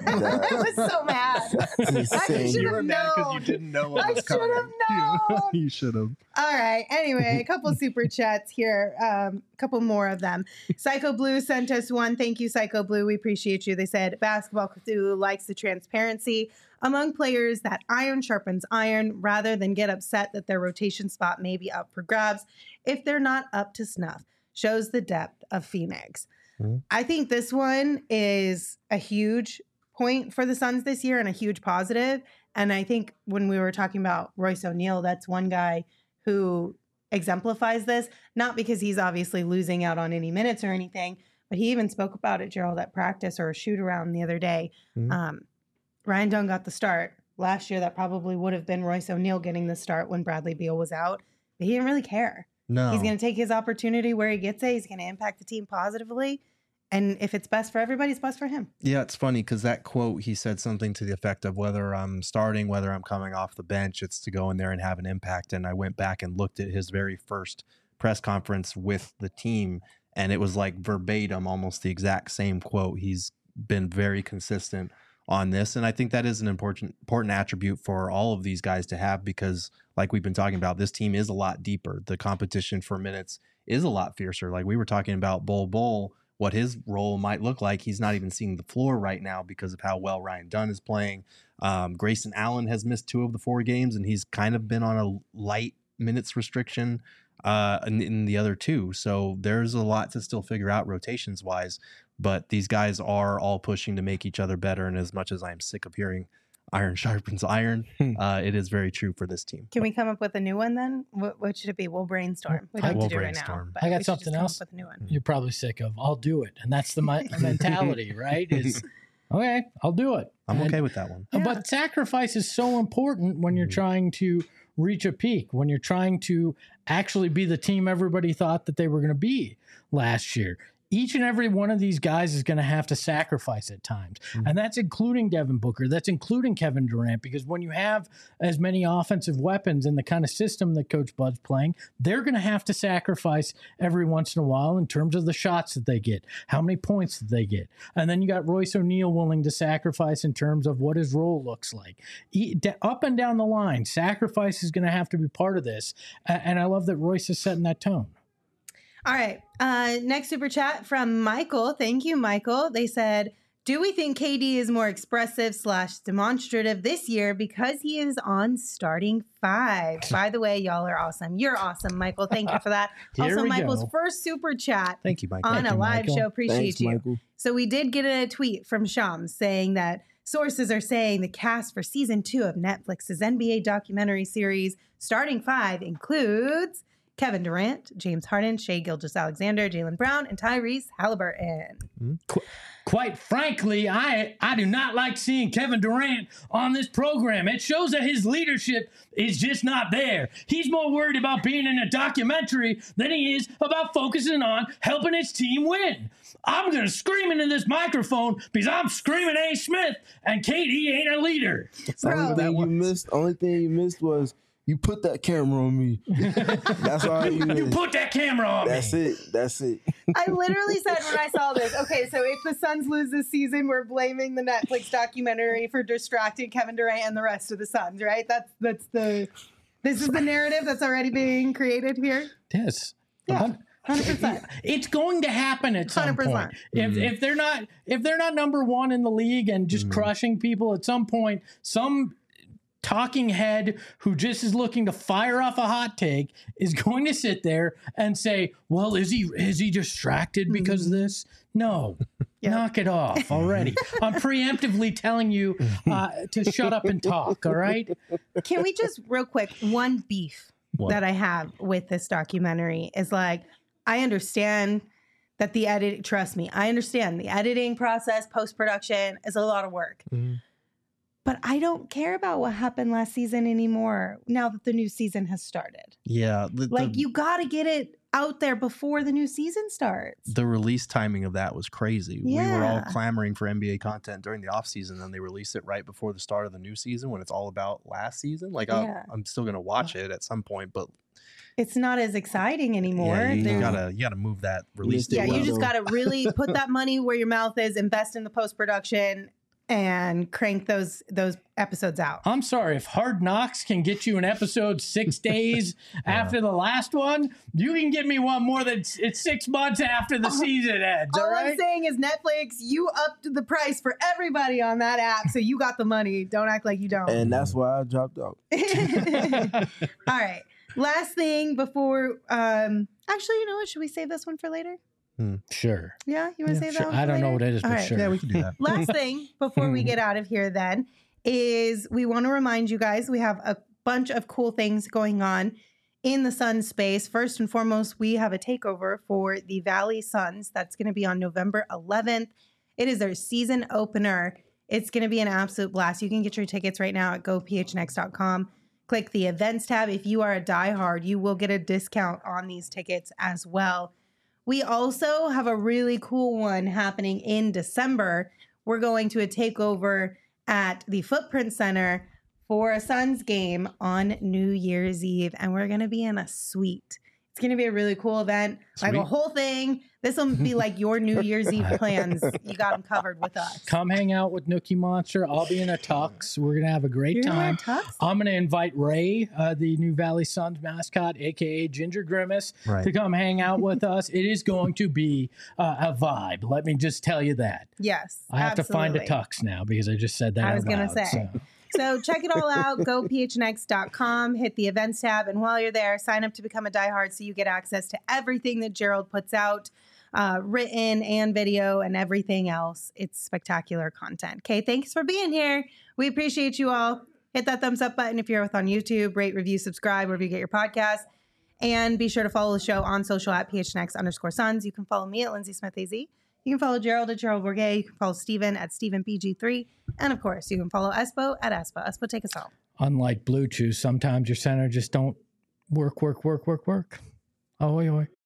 I was so mad. I Insane. should You were have mad because known. you didn't know what I was should coming. have known. You should have. All right. Anyway, a couple super chats here. Um, a couple more of them. Psycho Blue sent us one. Thank you, Psycho Blue. We appreciate you. They said Basketball Cthulhu likes the transparency among players that iron sharpens iron rather than get upset that their rotation spot may be up for grabs if they're not up to snuff. Shows the depth of Phoenix. Mm-hmm. I think this one is a huge point for the Suns this year and a huge positive. And I think when we were talking about Royce O'Neal, that's one guy who exemplifies this, not because he's obviously losing out on any minutes or anything, but he even spoke about it, Gerald, at practice or a shoot around the other day. Mhm. Um, Ryan Dunn got the start. Last year, that probably would have been Royce O'Neal getting the start when Bradley Beal was out, but he didn't really care. No. He's going to take his opportunity where he gets it. He's going to impact the team positively. And if it's best for everybody, it's best for him. Yeah, it's funny because that quote, he said something to the effect of whether I'm starting, whether I'm coming off the bench, it's to go in there and have an impact. And I went back and looked at his very first press conference with the team, and it was like verbatim, almost the exact same quote. He's been very consistent on this. And I think that is an important, important attribute for all of these guys to have because, like we've been talking about, this team is a lot deeper. The competition for minutes is a lot fiercer. Like we were talking about Bol Bol, what his role might look like. He's not even seeing the floor right now because of how well Ryan Dunn is playing. Um, Grayson Allen has missed two of the four games, and he's kind of been on a light minutes restriction uh, in, in the other two. So there's a lot to still figure out rotations wise, but these guys are all pushing to make each other better. And as much as I'm sick of hearing iron sharpens iron. Uh, it is very true for this team. Can we come up with a new one then? What, what should it be? We'll brainstorm. We I- don't have We'll to do it right brainstorm. now. but I got we should something just come else. up with a new one. You're probably sick of. I'll do it, and that's the mi- mentality, right? Is okay. I'll do it. I'm And- okay with that one. Yeah. But sacrifice is so important when you're Mhm. trying to reach a peak, when you're trying to actually be the team everybody thought that they were going to be last year. Each and every one of these guys is going to have to sacrifice at times. Mhm. And that's including Devin Booker. That's including Kevin Durant, because when you have as many offensive weapons in the kind of system that Coach Bud's playing, they're going to have to sacrifice every once in a while in terms of the shots that they get, how many points that they get. And then you got Royce O'Neal willing to sacrifice in terms of what his role looks like. E- d- up and down the line, sacrifice is going to have to be part of this. A- And I love that Royce is setting that tone. All right. Uh, next super chat from Michael. Thank you, Michael. They said, do we think K D is more expressive slash demonstrative this year because he is on starting five? By the way, y'all are awesome. You're awesome, Michael. Thank you for that. Here also, we Michael's go. first super chat Thank you, Michael. on Thank a you, live Michael. show. Appreciate Thanks, you. Michael. So we did get a tweet from Shams saying that sources are saying the cast for season two of Netflix's N B A documentary series Starting Five includes Kevin Durant, James Harden, Shai Gilgeous-Alexander, Jaylen Brown, and Tyrese Halliburton. Quite frankly, I I do not like seeing Kevin Durant on this program. It shows that his leadership is just not there. He's more worried about being in a documentary than he is about focusing on helping his team win. I'm going to scream into this microphone because I'm screaming A. Smith, and K D ain't a leader. The only Bro. thing you missed, only thing you missed was you put that camera on me. That's all you You missed. put that camera on That's me. it. That's it. I literally said when I saw this, okay, so if the Suns lose this season, we're blaming the Netflix documentary for distracting Kevin Durant and the rest of the Suns, right? That's that's the this is the narrative that's already being created here. Yes. Yeah. one hundred percent. It's going to happen at some one hundred point. percent. If Mhm. if they're not if they're not number one in the league and just Mhm. crushing people, at some point, some talking head who just is looking to fire off a hot take is going to sit there and say, "Well, is he is he distracted because of this?" No, Yep. knock it off already. I'm preemptively telling you uh, to shut up and talk. All right. Can we just real quick, one beef What? that I have with this documentary is like, I understand that the edit, trust me, I understand the editing process, post-production is a lot of work. Mhm. But I don't care about what happened last season anymore now that the new season has started. Yeah. The, Like, the, you got to get it out there before the new season starts. the release timing of that was crazy. We were all Yeah. clamoring for N B A content during the offseason, and they released it right before the start of the new season when it's all about last season. Like, Yeah. I, I'm still going to watch it at some point, but It's not as exciting anymore. yeah, you, you There's- gotta you gotta move that release Yeah, yeah, date you up. just got to really put that money where your mouth is, invest in the post-production, and crank those those episodes out. I'm sorry, if Hard Knocks can get you an episode six days after the last one, you can get me one more than it's six months after the season ends. All All I'm right. saying is Netflix, you upped the price for everybody on that app, so you got the money. Don't act like you don't. And that's why I dropped out. All right. Last thing before, um, actually, you know what? Should we save this one for later? Sure. Yeah, you want to Yeah, save sure. that one for I don't know later? what it is, All but right. sure. Yeah, we can do that. Last thing before we get out of here then is we want to remind you guys we have a bunch of cool things going on in the Sun space. First and foremost, we have a takeover for the Valley Suns. That's going to be on November eleventh. It is their season opener. It's going to be an absolute blast. You can get your tickets right now at go p h n x dot com. Click the events tab. If you are a diehard, you will get a discount on these tickets as well. We also have a really cool one happening in December. We're going to a takeover at the Footprint Center for a Suns game on New Year's Eve, and we're going to be in a suite. It's going to be a really cool event, like a Sweet. whole thing. This will be like your New Year's Eve plans. You got them covered with us. Come hang out with Nookie Monster. I'll be in a tux. We're gonna have a great You're gonna wear time. tux? I'm gonna invite Ray, uh, the new Valley Suns mascot, aka Ginger Grimace, Right. to come hang out with us. It is going to be uh, a vibe. Let me just tell you that. Yes. I have to find a absolutely. tux now because I just said that. I out was gonna loud, say. so. So check it all out. Go p h n x dot com, hit the events tab, and while you're there, sign up to become a diehard so you get access to everything that Gerald puts out. uh, written and video and everything else. It's spectacular content. Okay, thanks for being here. We appreciate you all. Hit that thumbs up button if you're with on YouTube. Rate, review, subscribe wherever you get your podcast. And be sure to follow the show on social at P H N X underscore Suns. You can follow me at Lindsay Smith A Z. You can follow Gerald at Gerald Bourget. You can follow Steven at Steven P G three. And of course, you can follow Espo at Espo. Espo, take us home. Unlike Blue Chew, sometimes your center just don't work, work, work, work, work. Oh, oi, oi.